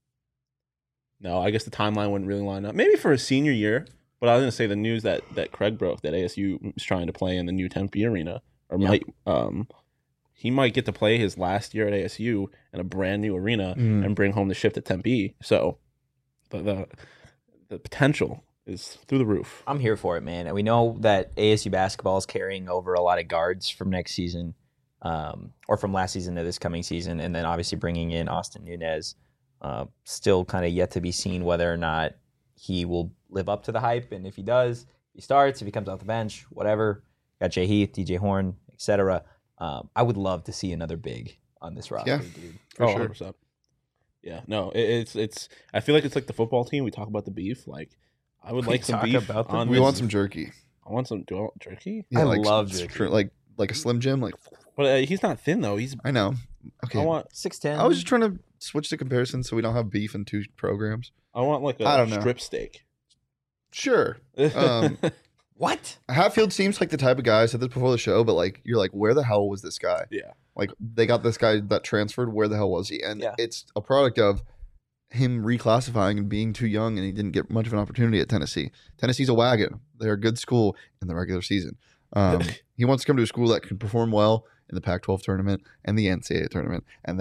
[SPEAKER 3] no, I guess the timeline wouldn't really line up. Maybe for his senior year, but I was going to say the news that that Craig broke that A S U is trying to play in the new Tempe arena, or
[SPEAKER 1] Yeah.
[SPEAKER 3] might um he might get to play his last year at A S U in a brand new arena
[SPEAKER 2] Mm.
[SPEAKER 3] and bring home the shift at Tempe. So the the, the potential is through the roof.
[SPEAKER 1] I'm here for it, man. And we know that A S U basketball is carrying over a lot of guards from next season, um, or from last season to this coming season, and then obviously bringing in Austin Nunez. Uh, still kind of yet to be seen whether or not he will live up to the hype, and if he does, he starts. If he comes off the bench, whatever. Got Jay Heath, D J Horn, et cetera. Um, I would love to see another big on this roster,
[SPEAKER 2] Yeah.
[SPEAKER 1] dude.
[SPEAKER 2] For
[SPEAKER 3] oh,
[SPEAKER 2] sure.
[SPEAKER 3] one hundred percent. Yeah, no, it, it's it's. I feel like it's like the football team. We talk about the beef. Like, I would
[SPEAKER 1] We
[SPEAKER 3] like some
[SPEAKER 1] talk
[SPEAKER 3] beef.
[SPEAKER 1] about the
[SPEAKER 3] on
[SPEAKER 2] We
[SPEAKER 3] this-
[SPEAKER 2] want some jerky.
[SPEAKER 3] I want some. Do I want jerky?
[SPEAKER 1] I
[SPEAKER 2] like,
[SPEAKER 1] love
[SPEAKER 2] s-
[SPEAKER 1] jerky.
[SPEAKER 2] Like like a Slim Jim. Like
[SPEAKER 3] But uh, he's not thin though. He's.
[SPEAKER 2] I know. Okay.
[SPEAKER 3] I want.
[SPEAKER 1] six ten.
[SPEAKER 2] I was just trying to switch the comparison so we don't have beef in two programs.
[SPEAKER 3] I want like a
[SPEAKER 2] I don't know.
[SPEAKER 3] strip steak.
[SPEAKER 2] Sure. Um,
[SPEAKER 1] What?
[SPEAKER 2] Hatfield seems like the type of guy. I said this before the show, but like you're like, where the hell was this guy?
[SPEAKER 3] Yeah.
[SPEAKER 2] Like they got this guy that transferred. Where the hell was he? And
[SPEAKER 1] Yeah.
[SPEAKER 2] it's a product of him reclassifying and being too young, and he didn't get much of an opportunity at Tennessee. Tennessee's a wagon. They're a good school in the regular season. Um, he wants to come to a school that can perform well in the Pac twelve tournament and the N C double A tournament, and that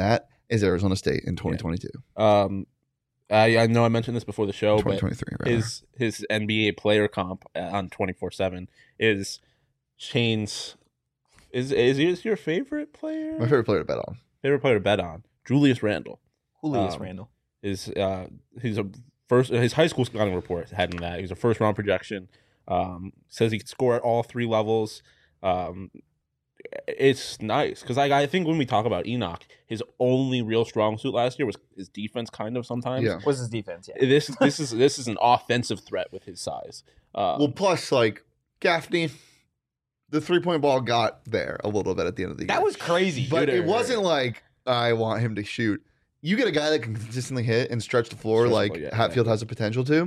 [SPEAKER 2] is Arizona State in twenty twenty-two.
[SPEAKER 3] Um, I, I know I mentioned this before the show,
[SPEAKER 2] twenty
[SPEAKER 3] but
[SPEAKER 2] twenty-three. Rather.
[SPEAKER 3] his his N B A player comp on twenty-four seven is Shane's. Is is he your favorite player?
[SPEAKER 2] My favorite player to bet on.
[SPEAKER 3] Favorite player to bet on. Julius Randle.
[SPEAKER 1] Julius
[SPEAKER 3] Um,
[SPEAKER 1] Randle.
[SPEAKER 3] Is uh he's a first his high school scouting report had him that he's a first round projection. Um, says he could score at all three levels. Um, it's nice because like I think when we talk about Enoch, his only real strong suit last year was his defense. Kind of sometimes.
[SPEAKER 2] Yeah.
[SPEAKER 1] Was his defense? Yeah.
[SPEAKER 3] This this is this is an offensive threat with his size. Uh,
[SPEAKER 2] Well, plus like Gaffney, the three point ball got there a little bit at the end of the year.
[SPEAKER 1] That was crazy.
[SPEAKER 2] but
[SPEAKER 3] Dude,
[SPEAKER 2] it wasn't like I want him to shoot. You get a guy that can consistently hit and stretch the floor
[SPEAKER 3] Stretch the
[SPEAKER 2] like
[SPEAKER 3] floor, yeah,
[SPEAKER 2] Hatfield
[SPEAKER 3] exactly.
[SPEAKER 2] has the potential to.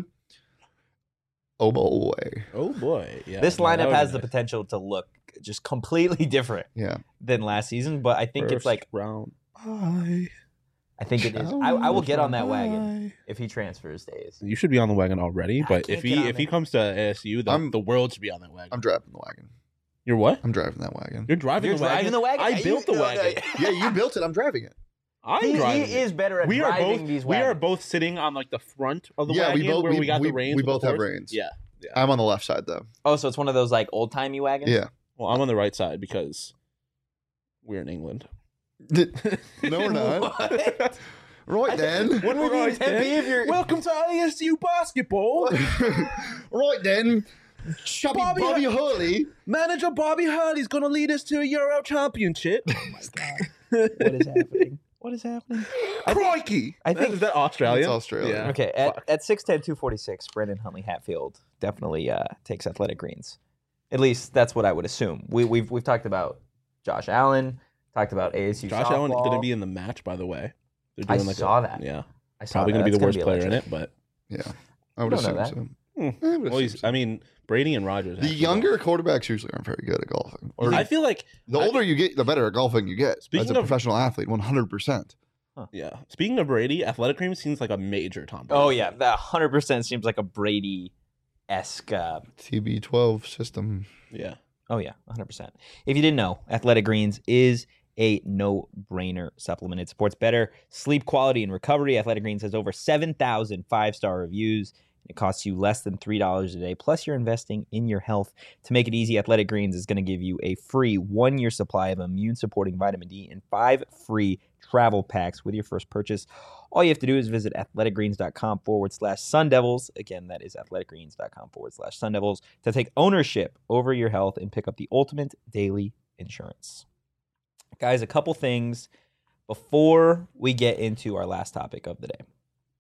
[SPEAKER 2] Oh boy.
[SPEAKER 3] oh boy, yeah.
[SPEAKER 1] This
[SPEAKER 3] no, that
[SPEAKER 1] lineup
[SPEAKER 3] would
[SPEAKER 1] has
[SPEAKER 3] be
[SPEAKER 1] the
[SPEAKER 3] nice.
[SPEAKER 1] potential to look just completely different
[SPEAKER 2] Yeah.
[SPEAKER 1] than last season, but I think it's
[SPEAKER 3] First
[SPEAKER 1] like
[SPEAKER 3] round. Bye.
[SPEAKER 1] I think it is. I, I will get on that wagon if he transfers days.
[SPEAKER 3] You should be on the wagon already,
[SPEAKER 1] I
[SPEAKER 3] but
[SPEAKER 1] can't
[SPEAKER 3] if he
[SPEAKER 1] get on
[SPEAKER 3] if he
[SPEAKER 1] it.
[SPEAKER 3] comes to A S U, the,
[SPEAKER 2] I'm-
[SPEAKER 3] the world should be on that wagon.
[SPEAKER 2] I'm driving the wagon.
[SPEAKER 3] You're what?
[SPEAKER 2] I'm driving that wagon.
[SPEAKER 3] You're driving
[SPEAKER 1] You're
[SPEAKER 3] the wagon.
[SPEAKER 1] driving the wagon?
[SPEAKER 3] I
[SPEAKER 1] You-
[SPEAKER 3] built the
[SPEAKER 1] no, no,
[SPEAKER 3] wagon.
[SPEAKER 2] Yeah, you built it. I'm driving it.
[SPEAKER 3] I'm
[SPEAKER 1] He,
[SPEAKER 3] driving.
[SPEAKER 1] he
[SPEAKER 3] it.
[SPEAKER 1] is better at
[SPEAKER 3] We are
[SPEAKER 1] driving
[SPEAKER 3] both.
[SPEAKER 1] these
[SPEAKER 3] We
[SPEAKER 1] wagons.
[SPEAKER 3] are both sitting on like the front of the
[SPEAKER 2] Yeah, we
[SPEAKER 3] wagon
[SPEAKER 2] both-
[SPEAKER 3] where we,
[SPEAKER 2] we-
[SPEAKER 3] got
[SPEAKER 2] we-
[SPEAKER 3] the reins.
[SPEAKER 2] we
[SPEAKER 3] with the
[SPEAKER 2] both have
[SPEAKER 3] horse.
[SPEAKER 2] reins.
[SPEAKER 3] Yeah.
[SPEAKER 2] I'm on the left side though.
[SPEAKER 1] Oh, so it's one of those like old timey wagons.
[SPEAKER 2] Yeah.
[SPEAKER 3] Well, I'm on the right side because we're in England.
[SPEAKER 2] No, we're not.
[SPEAKER 1] What?
[SPEAKER 2] Right then.
[SPEAKER 1] What would
[SPEAKER 3] Right
[SPEAKER 1] you
[SPEAKER 3] then.
[SPEAKER 1] be if you're?
[SPEAKER 3] Welcome to A S U basketball.
[SPEAKER 2] Right then. Chubby
[SPEAKER 3] Bobby-
[SPEAKER 2] Bobby, Hurley.
[SPEAKER 3] Manager Bobby Hurley's going to lead us to a Euro Championship. Oh my god!
[SPEAKER 1] What is happening? What is happening?
[SPEAKER 3] Crikey!
[SPEAKER 1] I think-
[SPEAKER 3] is that Australia?
[SPEAKER 2] It's Australia.
[SPEAKER 3] Yeah.
[SPEAKER 1] Okay, at,
[SPEAKER 3] Fuck.
[SPEAKER 1] at six ten, two forty-six, Brendan Huntley Hatfield definitely uh, takes Athletic Greens. At least that's what I would assume. We, we've we've talked about Josh Allen, talked about A S U
[SPEAKER 3] Josh
[SPEAKER 1] softball.
[SPEAKER 3] Allen going to be in the match, by the way. They're
[SPEAKER 1] I
[SPEAKER 3] doing like
[SPEAKER 1] saw
[SPEAKER 3] a,
[SPEAKER 1] that.
[SPEAKER 3] Yeah,
[SPEAKER 1] I saw
[SPEAKER 3] probably
[SPEAKER 1] that.
[SPEAKER 3] going to be the
[SPEAKER 1] That's
[SPEAKER 3] worst player in
[SPEAKER 1] electric.
[SPEAKER 3] it, but
[SPEAKER 2] Yeah. I would
[SPEAKER 1] don't know
[SPEAKER 2] assume
[SPEAKER 1] that.
[SPEAKER 2] so.
[SPEAKER 3] hmm.
[SPEAKER 2] I would
[SPEAKER 3] well,
[SPEAKER 2] assume
[SPEAKER 3] he's,
[SPEAKER 2] so.
[SPEAKER 3] I mean, Brady and Rogers.
[SPEAKER 2] The
[SPEAKER 3] have to
[SPEAKER 2] younger quarterbacks usually aren't very good at golfing.
[SPEAKER 3] go.
[SPEAKER 2] Or
[SPEAKER 3] I feel like
[SPEAKER 2] the older you get, the better at golfing you get.
[SPEAKER 3] Speaking
[SPEAKER 2] as a
[SPEAKER 3] of-
[SPEAKER 2] professional athlete, one hundred percent.
[SPEAKER 3] yeah. Speaking of Brady, Athletic Cream seems like a major Tom Brady.
[SPEAKER 1] Oh yeah, that one hundred percent seems like a Brady esque. Uh,
[SPEAKER 2] T B twelve system.
[SPEAKER 3] yeah.
[SPEAKER 1] oh yeah, one hundred percent. If you didn't know, Athletic Greens is a no-brainer supplement. It supports better sleep quality and recovery. Athletic Greens has over seven thousand five-star reviews. It costs you less than three dollars a day. Plus, you're investing in your health. To make it easy, Athletic Greens is going to give you a free one-year supply of immune-supporting vitamin D and five free travel packs with your first purchase. All you have to do is visit athleticgreens.com forward slash Sun Devils. Again, that is athleticgreens.com forward slash Sun Devils to take ownership over your health and pick up the ultimate daily insurance. Guys, a couple things before we get into our last topic of the day.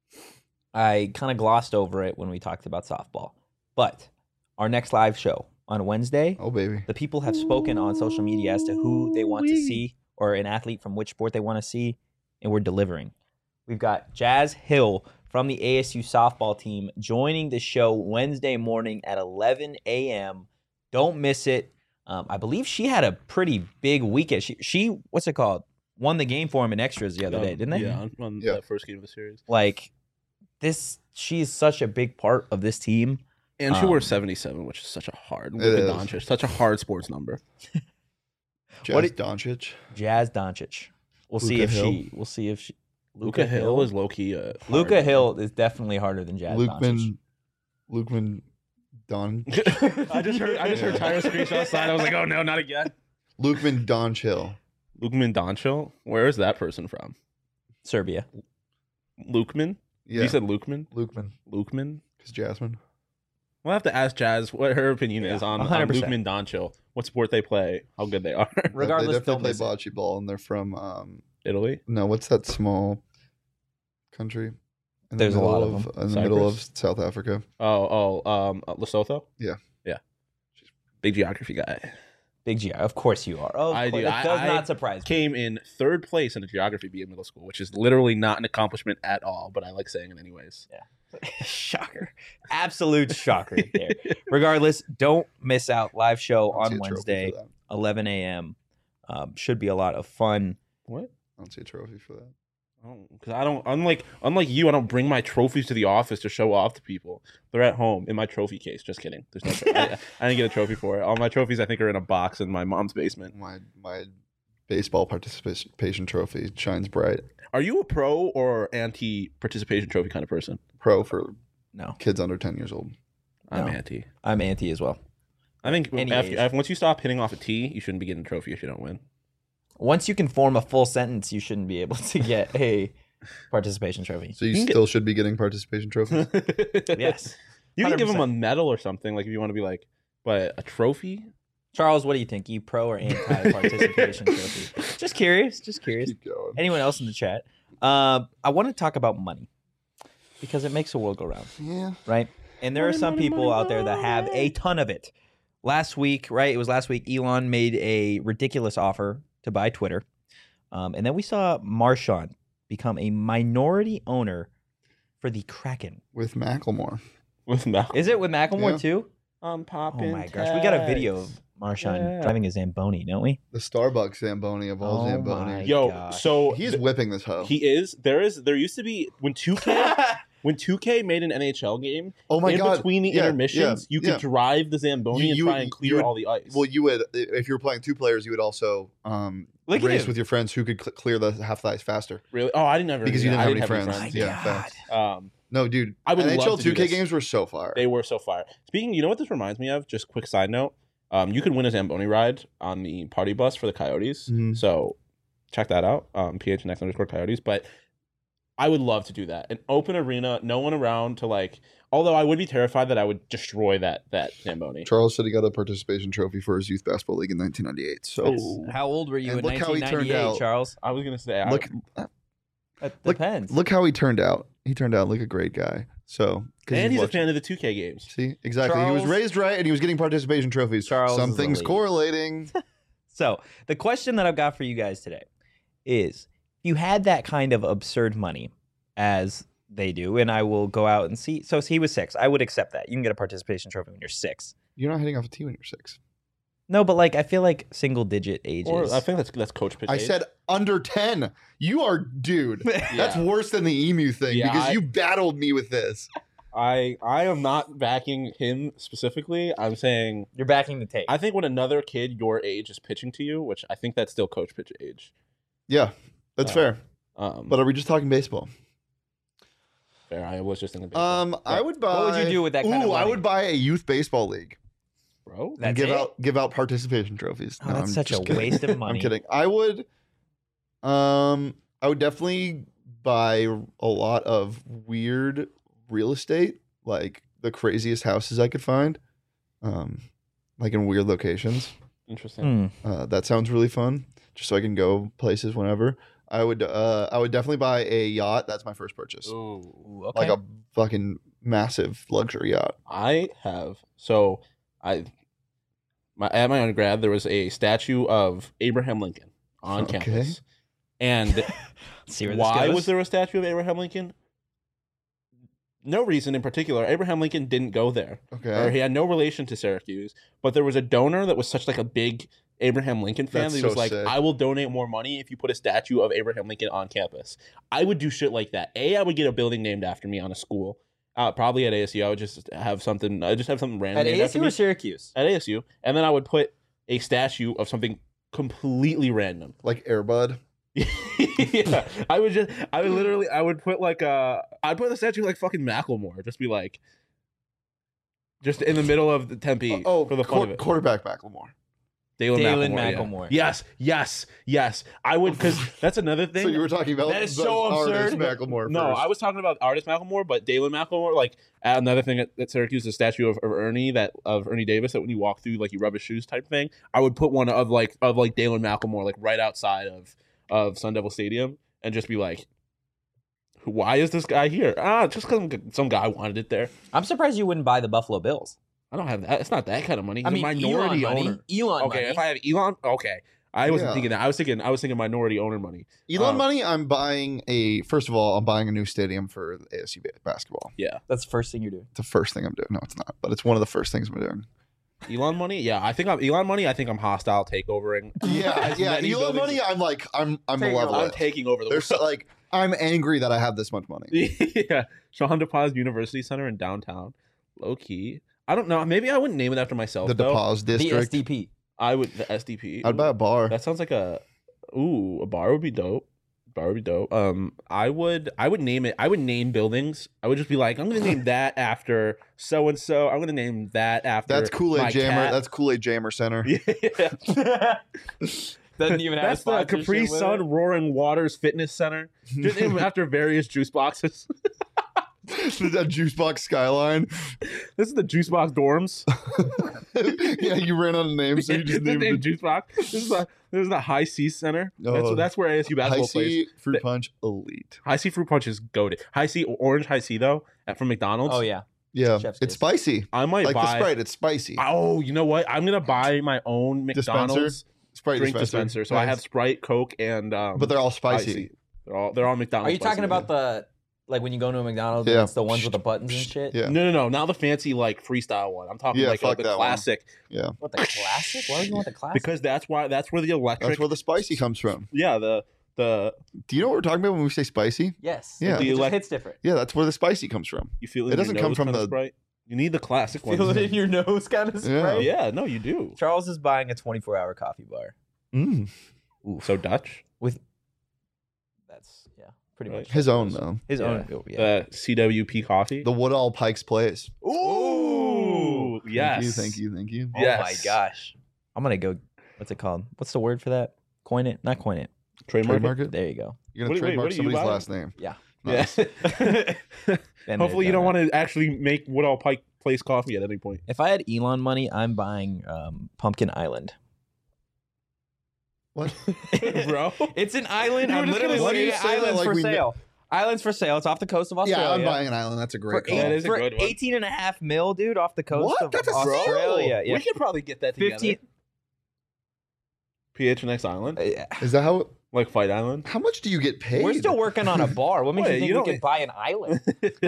[SPEAKER 1] I kind of glossed over it when we talked about softball, but our next live show on Wednesday,
[SPEAKER 2] Oh baby.
[SPEAKER 1] the people have spoken on social media as to who they want to see or an athlete from which sport they want to see, and we're delivering. We've got Jazz Hill from the A S U softball team joining the show Wednesday morning at eleven a.m. Don't miss it. Um, I believe she had a pretty big weekend. She, she, what's it called? Won the game for him in extras the other day, didn't they?
[SPEAKER 3] Yeah, on, on
[SPEAKER 2] Yeah.
[SPEAKER 3] that first game of the series.
[SPEAKER 1] Like, this, she's such a big part of this team.
[SPEAKER 3] And she
[SPEAKER 1] Um,
[SPEAKER 3] wore seventy-seven, which is such a hard,
[SPEAKER 2] It
[SPEAKER 3] Luka
[SPEAKER 2] is.
[SPEAKER 3] Doncic, such a hard sports number.
[SPEAKER 2] Jazz
[SPEAKER 1] What it-
[SPEAKER 2] Doncic.
[SPEAKER 1] Jazz Doncic. We'll see
[SPEAKER 2] Luka
[SPEAKER 1] if
[SPEAKER 2] Hill.
[SPEAKER 1] she, we'll see if she,
[SPEAKER 3] Luca Hill is low key. Uh,
[SPEAKER 1] Luca
[SPEAKER 3] hard.
[SPEAKER 1] Hill is definitely harder than Jazz Doncic.
[SPEAKER 2] Lukeman. Lukeman. Don.
[SPEAKER 3] I just heard. I just heard Tyler screech outside. I was like, oh no, not again.
[SPEAKER 2] Lukeman Don Chill.
[SPEAKER 3] Lukeman Donchil. Where is that person from?
[SPEAKER 1] Serbia.
[SPEAKER 3] Lukeman.
[SPEAKER 2] Yeah.
[SPEAKER 3] You said Lukeman.
[SPEAKER 2] Lukeman.
[SPEAKER 3] Lukeman.
[SPEAKER 2] Because Jasmine.
[SPEAKER 3] We'll have to ask Jazz what her opinion
[SPEAKER 1] Yeah,
[SPEAKER 3] is on,
[SPEAKER 1] one
[SPEAKER 3] on
[SPEAKER 1] hundred percent.
[SPEAKER 3] Lukeman Donchil. What sport they play, how good they are.
[SPEAKER 1] Regardless,
[SPEAKER 2] they
[SPEAKER 1] don't
[SPEAKER 2] definitely
[SPEAKER 1] miss
[SPEAKER 2] play
[SPEAKER 1] it.
[SPEAKER 2] bocce ball, and they're from um.
[SPEAKER 3] Italy.
[SPEAKER 2] No, what's that small country? In
[SPEAKER 1] There's a
[SPEAKER 2] the
[SPEAKER 1] lot
[SPEAKER 2] middle
[SPEAKER 1] of them.
[SPEAKER 2] In the middle of
[SPEAKER 3] Cyprus?
[SPEAKER 2] South Africa.
[SPEAKER 3] Oh, oh, um, uh, Lesotho.
[SPEAKER 2] Yeah.
[SPEAKER 3] Yeah. Big geography guy.
[SPEAKER 1] Big G I. Of course you are. Oh, of
[SPEAKER 3] I
[SPEAKER 1] course.
[SPEAKER 3] do.
[SPEAKER 1] That
[SPEAKER 3] I-
[SPEAKER 1] does
[SPEAKER 3] I
[SPEAKER 1] not surprise me.
[SPEAKER 3] Came in third place in a geography bee in middle school, which is literally not an accomplishment at all, but I like saying it anyways.
[SPEAKER 1] Shocker. Absolute shocker there. Regardless, don't miss out. Live show
[SPEAKER 2] I don't see
[SPEAKER 1] on
[SPEAKER 2] a trophy
[SPEAKER 1] Wednesday,
[SPEAKER 2] for that.
[SPEAKER 1] eleven a.m. Um, should be a lot of fun.
[SPEAKER 3] What?
[SPEAKER 2] I don't see a trophy for that.
[SPEAKER 3] Because I don't, unlike unlike you, I don't bring my trophies to the office to show off to people. They're at home in my trophy case. Just kidding. There's no. Tro- I, I didn't get a trophy for it. All my trophies, I think, are in a box in my mom's basement.
[SPEAKER 2] My my baseball participation trophy shines bright.
[SPEAKER 3] Are you a pro or anti participation trophy kind of person?
[SPEAKER 2] Pro for
[SPEAKER 1] No,
[SPEAKER 2] kids under ten years old.
[SPEAKER 3] I'm
[SPEAKER 1] No.
[SPEAKER 3] anti.
[SPEAKER 1] I'm anti as well.
[SPEAKER 3] I think
[SPEAKER 1] Any
[SPEAKER 3] after,
[SPEAKER 1] age.
[SPEAKER 3] after, once you stop hitting off a tee, you shouldn't be getting a trophy if you don't win.
[SPEAKER 1] Once you can form a full sentence, you shouldn't be able to get a participation trophy.
[SPEAKER 2] So you,
[SPEAKER 3] You can
[SPEAKER 2] still should be getting participation trophies.
[SPEAKER 1] Yes.
[SPEAKER 3] You can give them a
[SPEAKER 1] one hundred percent.
[SPEAKER 3] medal or something, like if you want to be like, but a trophy?
[SPEAKER 1] Charles, what do you think? You pro or anti participation trophy? Just curious. Just curious.
[SPEAKER 2] Keep going.
[SPEAKER 1] Anyone else in the chat? Uh, I want to talk about money because it makes the world go round,
[SPEAKER 2] Yeah.
[SPEAKER 1] right? And there
[SPEAKER 3] Money,
[SPEAKER 1] are some
[SPEAKER 3] money,
[SPEAKER 1] people
[SPEAKER 3] money,
[SPEAKER 1] out there that have a
[SPEAKER 3] money.
[SPEAKER 1] ton of it. Last week, right? It was last week. Elon made a ridiculous offer to buy Twitter, um, and then we saw Marshawn become a minority owner for the Kraken.
[SPEAKER 2] With Macklemore.
[SPEAKER 3] With Malcolm.
[SPEAKER 1] Is it with Macklemore
[SPEAKER 2] Yeah.
[SPEAKER 1] too?
[SPEAKER 3] I'm
[SPEAKER 1] Oh
[SPEAKER 3] popping.
[SPEAKER 1] my gosh, we got a video of
[SPEAKER 3] tags.
[SPEAKER 1] Marshawn
[SPEAKER 3] Yeah.
[SPEAKER 1] driving a Zamboni, don't we?
[SPEAKER 2] The Starbucks Zamboni of all
[SPEAKER 1] Oh
[SPEAKER 2] Zambonis.
[SPEAKER 1] my
[SPEAKER 3] Yo,
[SPEAKER 1] gosh.
[SPEAKER 3] so
[SPEAKER 2] He's
[SPEAKER 3] th-
[SPEAKER 2] whipping this hoe.
[SPEAKER 3] he is. There is. There used to be when two K when two K made an N H L game.
[SPEAKER 2] oh my
[SPEAKER 3] in
[SPEAKER 2] god.
[SPEAKER 3] between the
[SPEAKER 2] Yeah,
[SPEAKER 3] intermissions,
[SPEAKER 2] yeah,
[SPEAKER 3] you could
[SPEAKER 2] yeah.
[SPEAKER 3] drive the Zamboni
[SPEAKER 2] You-
[SPEAKER 3] and
[SPEAKER 2] you
[SPEAKER 3] try
[SPEAKER 2] would-
[SPEAKER 3] and clear
[SPEAKER 2] you would-
[SPEAKER 3] all the ice.
[SPEAKER 2] Well, you would if you were playing two players, you would also um,
[SPEAKER 1] Look at
[SPEAKER 2] race
[SPEAKER 1] him.
[SPEAKER 2] with your friends who could cl- clear the half the ice faster
[SPEAKER 3] really? Oh, I didn't ever
[SPEAKER 2] because
[SPEAKER 3] do
[SPEAKER 2] you
[SPEAKER 3] that.
[SPEAKER 2] didn't
[SPEAKER 3] I
[SPEAKER 2] have any
[SPEAKER 3] didn't
[SPEAKER 2] friends.
[SPEAKER 3] have any
[SPEAKER 2] Yeah,
[SPEAKER 1] God.
[SPEAKER 2] facts.
[SPEAKER 3] Um,
[SPEAKER 2] No, dude.
[SPEAKER 3] I would
[SPEAKER 2] N H L
[SPEAKER 3] love to do
[SPEAKER 2] two K
[SPEAKER 3] this.
[SPEAKER 2] games were so fire.
[SPEAKER 3] They were so fire. Speaking, you know what this reminds me of? Just quick side note. Um, you could win a Zamboni ride on the party bus for the Coyotes.
[SPEAKER 2] Mhm.
[SPEAKER 3] So check that out. Um, P H N X underscore Coyotes. But I would love to do that. An open arena, no one around to like. Although I would be terrified that I would destroy that that Zamboni.
[SPEAKER 2] Charles said he got a participation trophy for his youth basketball league in nineteen ninety-eight. So
[SPEAKER 3] Yes.
[SPEAKER 1] How old were you
[SPEAKER 2] And
[SPEAKER 1] in
[SPEAKER 2] look how he
[SPEAKER 1] nineteen
[SPEAKER 2] turned
[SPEAKER 1] ninety-eight,
[SPEAKER 2] out.
[SPEAKER 1] Charles?
[SPEAKER 3] I was gonna say. I-
[SPEAKER 2] look,
[SPEAKER 1] That
[SPEAKER 2] Look-
[SPEAKER 1] depends.
[SPEAKER 2] look how he turned out. He turned out like a great guy. So 'cause
[SPEAKER 3] and he's a
[SPEAKER 2] watching-
[SPEAKER 3] fan of the two K games.
[SPEAKER 2] See, exactly. he
[SPEAKER 1] Charles-
[SPEAKER 2] was raised right, and he was getting participation trophies.
[SPEAKER 1] Charles is
[SPEAKER 2] Something's
[SPEAKER 1] elite.
[SPEAKER 2] correlating.
[SPEAKER 1] So the question that I've got for you guys today is: if you had that kind of absurd money, as they do, and I will go out and see. So he was six. I would accept that. You can get a participation trophy when you're six.
[SPEAKER 2] You're not hitting off a tee when you're six.
[SPEAKER 1] No, but like I feel like single digit ages.
[SPEAKER 3] Or I think that's that's coach pitch.
[SPEAKER 2] I
[SPEAKER 3] age.
[SPEAKER 2] said under ten. You are, dude. That's
[SPEAKER 3] Yeah.
[SPEAKER 2] worse than the emu thing
[SPEAKER 3] Yeah,
[SPEAKER 2] because
[SPEAKER 3] I-
[SPEAKER 2] you battled me with this.
[SPEAKER 3] I I am not backing him specifically. I'm saying
[SPEAKER 1] You're backing the take.
[SPEAKER 3] I think when another kid your age is pitching to you, which I think that's still coach pitch age.
[SPEAKER 2] Yeah, that's
[SPEAKER 3] Uh,
[SPEAKER 2] fair.
[SPEAKER 3] Um,
[SPEAKER 2] But are we just talking baseball?
[SPEAKER 3] fair. I was just thinking.
[SPEAKER 2] Um, I would buy.
[SPEAKER 1] What would you do with that kind
[SPEAKER 2] Ooh,
[SPEAKER 1] of
[SPEAKER 2] I
[SPEAKER 1] money?
[SPEAKER 2] would buy a youth baseball league
[SPEAKER 3] bro.
[SPEAKER 1] That's
[SPEAKER 2] and give
[SPEAKER 1] it?
[SPEAKER 2] out give out participation trophies.
[SPEAKER 1] Oh,
[SPEAKER 2] No,
[SPEAKER 1] that's
[SPEAKER 2] I'm
[SPEAKER 1] such a
[SPEAKER 2] just kidding.
[SPEAKER 1] waste of money.
[SPEAKER 2] I'm kidding. I would. Um, I would definitely buy a lot of weird real estate, like the craziest houses I could find, um, like in weird locations.
[SPEAKER 3] Interesting.
[SPEAKER 1] Hmm.
[SPEAKER 2] Uh, that sounds really fun, just so I can go places whenever. I would. Uh, I would definitely buy a yacht. That's my first purchase,
[SPEAKER 3] Ooh.
[SPEAKER 1] Ooh, okay.
[SPEAKER 2] like a fucking massive luxury yacht.
[SPEAKER 3] I have so I my at my undergrad there was a statue of Abraham Lincoln on
[SPEAKER 2] Okay.
[SPEAKER 3] campus. And
[SPEAKER 1] See where this
[SPEAKER 3] why
[SPEAKER 1] goes?
[SPEAKER 3] was there a statue of Abraham Lincoln? No reason in particular. Abraham Lincoln didn't go there. Or
[SPEAKER 2] Okay,
[SPEAKER 3] he had no relation to Syracuse, but there was a donor that was such like a big Abraham Lincoln fan
[SPEAKER 2] That's
[SPEAKER 3] that he
[SPEAKER 2] so
[SPEAKER 3] was like,
[SPEAKER 2] sick.
[SPEAKER 3] I will donate more money if you put a statue of Abraham Lincoln on campus. I would do shit like that. A, I would get a building named after me on a school. Uh, probably at A S U. I would just have something. I just have something random
[SPEAKER 1] At
[SPEAKER 3] named after
[SPEAKER 1] A S U
[SPEAKER 3] me.
[SPEAKER 1] or Syracuse?
[SPEAKER 3] At A S U, and then I would put a statue of something completely random.
[SPEAKER 2] like Airbud.
[SPEAKER 3] Yeah, I would just, I would literally, I would put like a, I'd put a statue like fucking Macklemore, just be like, just in the middle of the Tempe
[SPEAKER 2] Oh,
[SPEAKER 3] for the fun
[SPEAKER 2] quar-
[SPEAKER 3] of it.
[SPEAKER 2] quarterback Macklemore.
[SPEAKER 3] Dalen,
[SPEAKER 1] Dalen
[SPEAKER 3] Macklemore. yeah.
[SPEAKER 1] Macklemore.
[SPEAKER 3] Yes, yes, yes. I would, because that's another thing.
[SPEAKER 2] So you were talking about
[SPEAKER 1] That is
[SPEAKER 2] the
[SPEAKER 1] so
[SPEAKER 2] artist
[SPEAKER 1] absurd.
[SPEAKER 2] Macklemore.
[SPEAKER 3] No,
[SPEAKER 2] first.
[SPEAKER 3] I was talking about artist Macklemore, but Dalen Macklemore, like another thing at, at Syracuse, the statue of, of Ernie that of Ernie Davis that when you walk through, like you rub his shoes type thing. I would put one of like of like Dalen Macklemore like right outside of of Sun Devil Stadium and just be like, why is this guy here? Ah, just because some guy wanted it there.
[SPEAKER 1] I'm surprised you wouldn't buy the Buffalo Bills.
[SPEAKER 3] I don't have that. It's not that kind of money. He's
[SPEAKER 1] I mean,
[SPEAKER 3] a minority
[SPEAKER 1] Elon
[SPEAKER 3] owner.
[SPEAKER 1] money. Elon
[SPEAKER 3] Okay,
[SPEAKER 1] money.
[SPEAKER 3] if I have Elon, okay. I wasn't
[SPEAKER 2] Yeah.
[SPEAKER 3] thinking that. I was thinking I was thinking minority owner money.
[SPEAKER 2] Elon
[SPEAKER 3] Uh,
[SPEAKER 2] money. I'm buying a. First of all, I'm buying a new stadium for A S U ba- basketball.
[SPEAKER 1] That's the first thing you're doing.
[SPEAKER 2] It's the first thing I'm doing. No, it's not, but it's one of the first things I'm doing.
[SPEAKER 3] Elon money, yeah. I think I'm Elon money. I think I'm hostile takeovering.
[SPEAKER 2] Yeah,
[SPEAKER 3] As
[SPEAKER 2] yeah.
[SPEAKER 3] many
[SPEAKER 2] Elon
[SPEAKER 3] buildings-
[SPEAKER 2] money. I'm like, I'm, I'm
[SPEAKER 1] Taking over.
[SPEAKER 3] I'm
[SPEAKER 2] malevolent.
[SPEAKER 3] taking over the
[SPEAKER 2] There's
[SPEAKER 3] world.
[SPEAKER 2] like, I'm angry that I have this much money.
[SPEAKER 3] Yeah, Sean DePaz University Center in downtown, low key. I don't know. Maybe I wouldn't name it after myself.
[SPEAKER 2] The
[SPEAKER 3] though.
[SPEAKER 2] DePause
[SPEAKER 1] The
[SPEAKER 2] district.
[SPEAKER 1] S D P.
[SPEAKER 3] I would the S D P.
[SPEAKER 2] I'd buy a bar.
[SPEAKER 3] That sounds like a Ooh, a bar would be dope. Bar would be dope. Um, I would, I would name it. I would name buildings. I would just be like, I'm gonna name that after so and so. I'm gonna name that after.
[SPEAKER 2] That's Kool-Aid
[SPEAKER 3] my
[SPEAKER 2] Jammer.
[SPEAKER 3] cat.
[SPEAKER 2] That's Kool-Aid Jammer Center.
[SPEAKER 3] Yeah.
[SPEAKER 1] Doesn't even have
[SPEAKER 3] That's the Capri
[SPEAKER 1] with
[SPEAKER 3] Sun
[SPEAKER 1] it.
[SPEAKER 3] Roaring Waters Fitness Center. Just named after various juice boxes.
[SPEAKER 2] That juice box skyline.
[SPEAKER 3] This is the juice box dorms.
[SPEAKER 2] Yeah, you ran out of names, so you just
[SPEAKER 3] the
[SPEAKER 2] named
[SPEAKER 3] name
[SPEAKER 2] the
[SPEAKER 3] juice box. This is the this is the High C Center. That's
[SPEAKER 2] Oh.
[SPEAKER 3] that's where A S U
[SPEAKER 2] High
[SPEAKER 3] basketball plays.
[SPEAKER 2] C Fruit
[SPEAKER 3] The-
[SPEAKER 2] Punch Elite.
[SPEAKER 3] High C fruit punch is goated. High C orange High C though at from McDonald's.
[SPEAKER 1] Oh yeah.
[SPEAKER 2] Yeah,
[SPEAKER 1] Chef's
[SPEAKER 2] it's
[SPEAKER 1] kiss.
[SPEAKER 2] spicy.
[SPEAKER 3] I might
[SPEAKER 2] Like
[SPEAKER 3] buy.
[SPEAKER 2] the Sprite, it's spicy.
[SPEAKER 3] Oh, you know what? I'm gonna buy my own McDonald's
[SPEAKER 2] Sprite
[SPEAKER 3] drink dispenser. So I
[SPEAKER 2] Nice.
[SPEAKER 3] have Sprite, Coke, and um,
[SPEAKER 2] but they're all
[SPEAKER 3] High
[SPEAKER 2] spicy.
[SPEAKER 3] C. They're all they're all McDonald's.
[SPEAKER 1] Are you talking
[SPEAKER 3] spicy.
[SPEAKER 1] about the like when you go to a McDonald's?
[SPEAKER 2] Yeah.
[SPEAKER 1] It's the ones with the buttons and shit.
[SPEAKER 2] Yeah,
[SPEAKER 3] No, no, no. Not the fancy like freestyle one. I'm talking
[SPEAKER 2] Yeah,
[SPEAKER 3] like uh,
[SPEAKER 2] fuck
[SPEAKER 3] the
[SPEAKER 2] that one.
[SPEAKER 3] classic
[SPEAKER 2] yeah.
[SPEAKER 1] What the classic? Why would you want the classic?
[SPEAKER 3] because that's why that's where the electric.
[SPEAKER 2] That's where the spicy comes from.
[SPEAKER 3] yeah, the the
[SPEAKER 2] Do you know what we're talking about when we say spicy?
[SPEAKER 1] yes.
[SPEAKER 2] Yeah.
[SPEAKER 1] It
[SPEAKER 3] The
[SPEAKER 1] just
[SPEAKER 3] elec-
[SPEAKER 1] hits different.
[SPEAKER 2] Yeah, that's where the spicy comes from.
[SPEAKER 3] you feel
[SPEAKER 2] It
[SPEAKER 3] in your
[SPEAKER 2] doesn't come
[SPEAKER 3] nose
[SPEAKER 2] from
[SPEAKER 3] kind of
[SPEAKER 2] the-
[SPEAKER 3] Sprite. You need the classic one.
[SPEAKER 1] Feel it in your nose, kind of
[SPEAKER 2] Yeah.
[SPEAKER 1] spray.
[SPEAKER 3] Yeah, no, you do.
[SPEAKER 1] Charles is buying a twenty-four hour coffee bar.
[SPEAKER 2] Mm.
[SPEAKER 3] So Dutch,
[SPEAKER 1] With that's yeah, pretty
[SPEAKER 3] Right.
[SPEAKER 1] much
[SPEAKER 2] His own though.
[SPEAKER 1] his
[SPEAKER 3] Yeah.
[SPEAKER 1] own. Oh, yeah.
[SPEAKER 3] the C W P coffee.
[SPEAKER 2] The Woodall Pikes Place.
[SPEAKER 3] Ooh, yes.
[SPEAKER 2] Thank you, thank you, thank you.
[SPEAKER 1] Oh
[SPEAKER 3] Yes.
[SPEAKER 1] my gosh, I'm gonna go. What's it called? What's the word for that? Coin it? Not coin it.
[SPEAKER 3] Trademark.
[SPEAKER 2] Trademark it?
[SPEAKER 1] There you go.
[SPEAKER 2] You're
[SPEAKER 3] What
[SPEAKER 2] gonna
[SPEAKER 3] do- wait,
[SPEAKER 2] trademark
[SPEAKER 3] what do you
[SPEAKER 2] somebody's
[SPEAKER 3] buy?
[SPEAKER 2] last name.
[SPEAKER 1] Yeah.
[SPEAKER 2] Nice.
[SPEAKER 3] Yeah.
[SPEAKER 1] Been
[SPEAKER 3] Hopefully,
[SPEAKER 1] there,
[SPEAKER 3] you don't
[SPEAKER 1] done
[SPEAKER 3] want to actually make Woodall Pike Place coffee at any point.
[SPEAKER 1] that. If I had Elon money, I'm buying um, Pumpkin Island.
[SPEAKER 2] What?
[SPEAKER 3] Bro.
[SPEAKER 1] It's an island.
[SPEAKER 3] You were
[SPEAKER 1] I'm
[SPEAKER 3] just
[SPEAKER 1] literally
[SPEAKER 3] gonna
[SPEAKER 1] looking
[SPEAKER 2] say
[SPEAKER 1] at
[SPEAKER 2] that
[SPEAKER 1] islands
[SPEAKER 2] like
[SPEAKER 1] for
[SPEAKER 2] we kn-
[SPEAKER 1] sale. Islands for sale. It's off the coast of Australia.
[SPEAKER 2] Yeah, I'm buying an island. That's a
[SPEAKER 1] for,
[SPEAKER 2] great call.
[SPEAKER 1] eight,
[SPEAKER 3] That is a
[SPEAKER 1] for
[SPEAKER 3] good one.
[SPEAKER 1] eighteen and a half mil, dude, off the coast
[SPEAKER 2] What?
[SPEAKER 1] of
[SPEAKER 2] That's a steal.
[SPEAKER 1] Australia. Yeah.
[SPEAKER 3] We could probably get that together.
[SPEAKER 1] fifteen.
[SPEAKER 3] P H N X Island,
[SPEAKER 1] Uh,
[SPEAKER 2] Is that how?
[SPEAKER 3] like Fight Island.
[SPEAKER 2] How much do you get paid?
[SPEAKER 1] We're still working on a bar. What makes
[SPEAKER 3] Wait,
[SPEAKER 1] you think
[SPEAKER 3] you
[SPEAKER 1] we
[SPEAKER 3] don't-
[SPEAKER 1] could buy an island?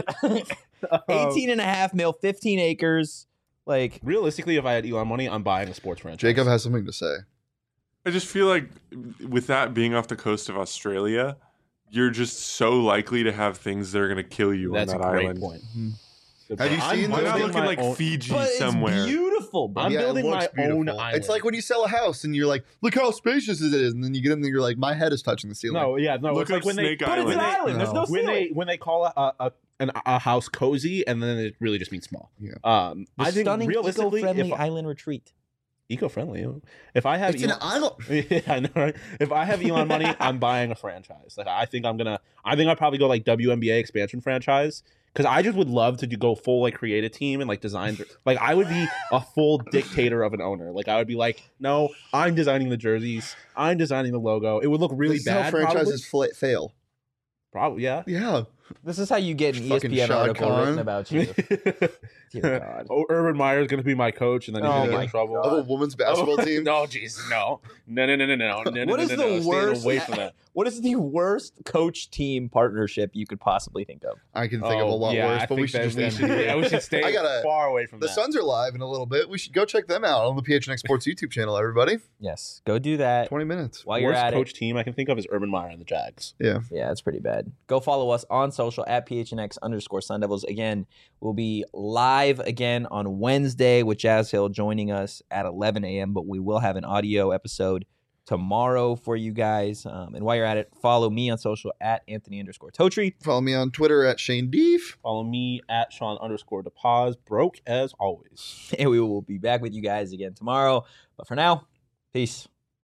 [SPEAKER 3] Um,
[SPEAKER 1] eighteen and a half mil, fifteen acres. Like,
[SPEAKER 3] Realistically, if I had Elon money, I'm buying a sports franchise.
[SPEAKER 2] Jacob has something to say.
[SPEAKER 4] I just feel like with that being off the coast of Australia, you're just so likely to have things that are going to kill you
[SPEAKER 3] That's a
[SPEAKER 4] on that
[SPEAKER 3] great
[SPEAKER 4] island.
[SPEAKER 3] point.
[SPEAKER 2] Mhm.
[SPEAKER 3] Good
[SPEAKER 2] Have
[SPEAKER 3] point.
[SPEAKER 2] you
[SPEAKER 3] I'm
[SPEAKER 2] seen
[SPEAKER 4] Why
[SPEAKER 2] those
[SPEAKER 4] not
[SPEAKER 3] building
[SPEAKER 4] look in
[SPEAKER 3] my
[SPEAKER 4] like
[SPEAKER 3] own-
[SPEAKER 4] Fiji
[SPEAKER 1] but
[SPEAKER 4] somewhere?
[SPEAKER 1] it's beautiful, bro.
[SPEAKER 3] I'm
[SPEAKER 2] Yeah, it
[SPEAKER 3] building my
[SPEAKER 2] looks beautiful.
[SPEAKER 3] own island.
[SPEAKER 2] It's like when you sell a house and you're like, look how spacious it is. And then you get in there, you're like, my head is touching the ceiling.
[SPEAKER 3] no, yeah, no.
[SPEAKER 4] Look
[SPEAKER 3] it's like
[SPEAKER 4] up
[SPEAKER 3] when they
[SPEAKER 4] Snake
[SPEAKER 1] But it's an
[SPEAKER 4] Island.
[SPEAKER 1] island. There's no
[SPEAKER 3] when they
[SPEAKER 1] ceiling.
[SPEAKER 3] when they call a, a an, a house cozy, and then it really just means small.
[SPEAKER 2] Yeah.
[SPEAKER 3] Um,
[SPEAKER 1] The
[SPEAKER 3] I think
[SPEAKER 1] stunning
[SPEAKER 3] realistically,
[SPEAKER 1] eco-friendly
[SPEAKER 3] if
[SPEAKER 1] island retreat.
[SPEAKER 3] eco-friendly, if I have
[SPEAKER 2] It's an
[SPEAKER 3] Elon-
[SPEAKER 2] island.
[SPEAKER 3] yeah, I know, right? If I have Elon money, I'm buying a franchise. Like I think I'm gonna, I think I'd probably go like W N B A expansion franchise because I just would love to do, go full like create a team and like design. Like I would be a full dictator of an owner. Like I would be like, no, I'm designing the jerseys, I'm designing the logo. It would look really
[SPEAKER 2] This is how
[SPEAKER 3] bad.
[SPEAKER 2] franchises fla- fail.
[SPEAKER 3] Probably, yeah.
[SPEAKER 2] Yeah.
[SPEAKER 1] This is how you get an E S
[SPEAKER 2] Fucking
[SPEAKER 1] P N
[SPEAKER 2] Shad
[SPEAKER 1] article
[SPEAKER 2] Khan.
[SPEAKER 1] written about you. Dear God.
[SPEAKER 3] Oh, Urban Meyer's gonna be my coach, and then he's
[SPEAKER 1] Oh
[SPEAKER 3] gonna get
[SPEAKER 1] my
[SPEAKER 3] in trouble.
[SPEAKER 2] Of a women's basketball
[SPEAKER 3] Oh,
[SPEAKER 2] team.
[SPEAKER 3] No, jeez, no, no, no, no, no, no, no, no,
[SPEAKER 1] What
[SPEAKER 3] no,
[SPEAKER 1] is
[SPEAKER 3] no,
[SPEAKER 1] the
[SPEAKER 3] no. Stay
[SPEAKER 1] worst-
[SPEAKER 3] away from that?
[SPEAKER 1] What is the worst coach team partnership you could possibly think of?
[SPEAKER 2] I can think of a
[SPEAKER 3] Oh,
[SPEAKER 2] lot
[SPEAKER 3] yeah,
[SPEAKER 2] worse,
[SPEAKER 3] I
[SPEAKER 2] but we
[SPEAKER 3] think
[SPEAKER 2] should
[SPEAKER 3] that
[SPEAKER 2] just
[SPEAKER 3] we
[SPEAKER 2] end
[SPEAKER 3] should,
[SPEAKER 2] here.
[SPEAKER 3] yeah, we should stay
[SPEAKER 2] I gotta-
[SPEAKER 3] far away from
[SPEAKER 2] The
[SPEAKER 3] that.
[SPEAKER 2] Suns are live in a little bit. We should go check them out on the P H N X Sports YouTube channel, everybody.
[SPEAKER 1] Yes, go do that.
[SPEAKER 2] twenty minutes.
[SPEAKER 1] While you're
[SPEAKER 3] Worst
[SPEAKER 1] at
[SPEAKER 3] coach
[SPEAKER 1] it.
[SPEAKER 3] team I can think of is Urban Meyer and the Jags.
[SPEAKER 2] Yeah.
[SPEAKER 1] Yeah, it's pretty bad. Go follow us on social at P H N X underscore Sun Devils. Again, we'll be live again on Wednesday with Jazz Hill joining us at eleven a.m., but we will have an audio episode tomorrow for you guys. Um, and while you're at it, follow me on social at Anthony underscore Totri.
[SPEAKER 2] Follow me on Twitter at Shane Deef.
[SPEAKER 3] Follow me at Sean underscore DePaz. Broke as always.
[SPEAKER 1] And we will be back with you guys again tomorrow. But for now, peace.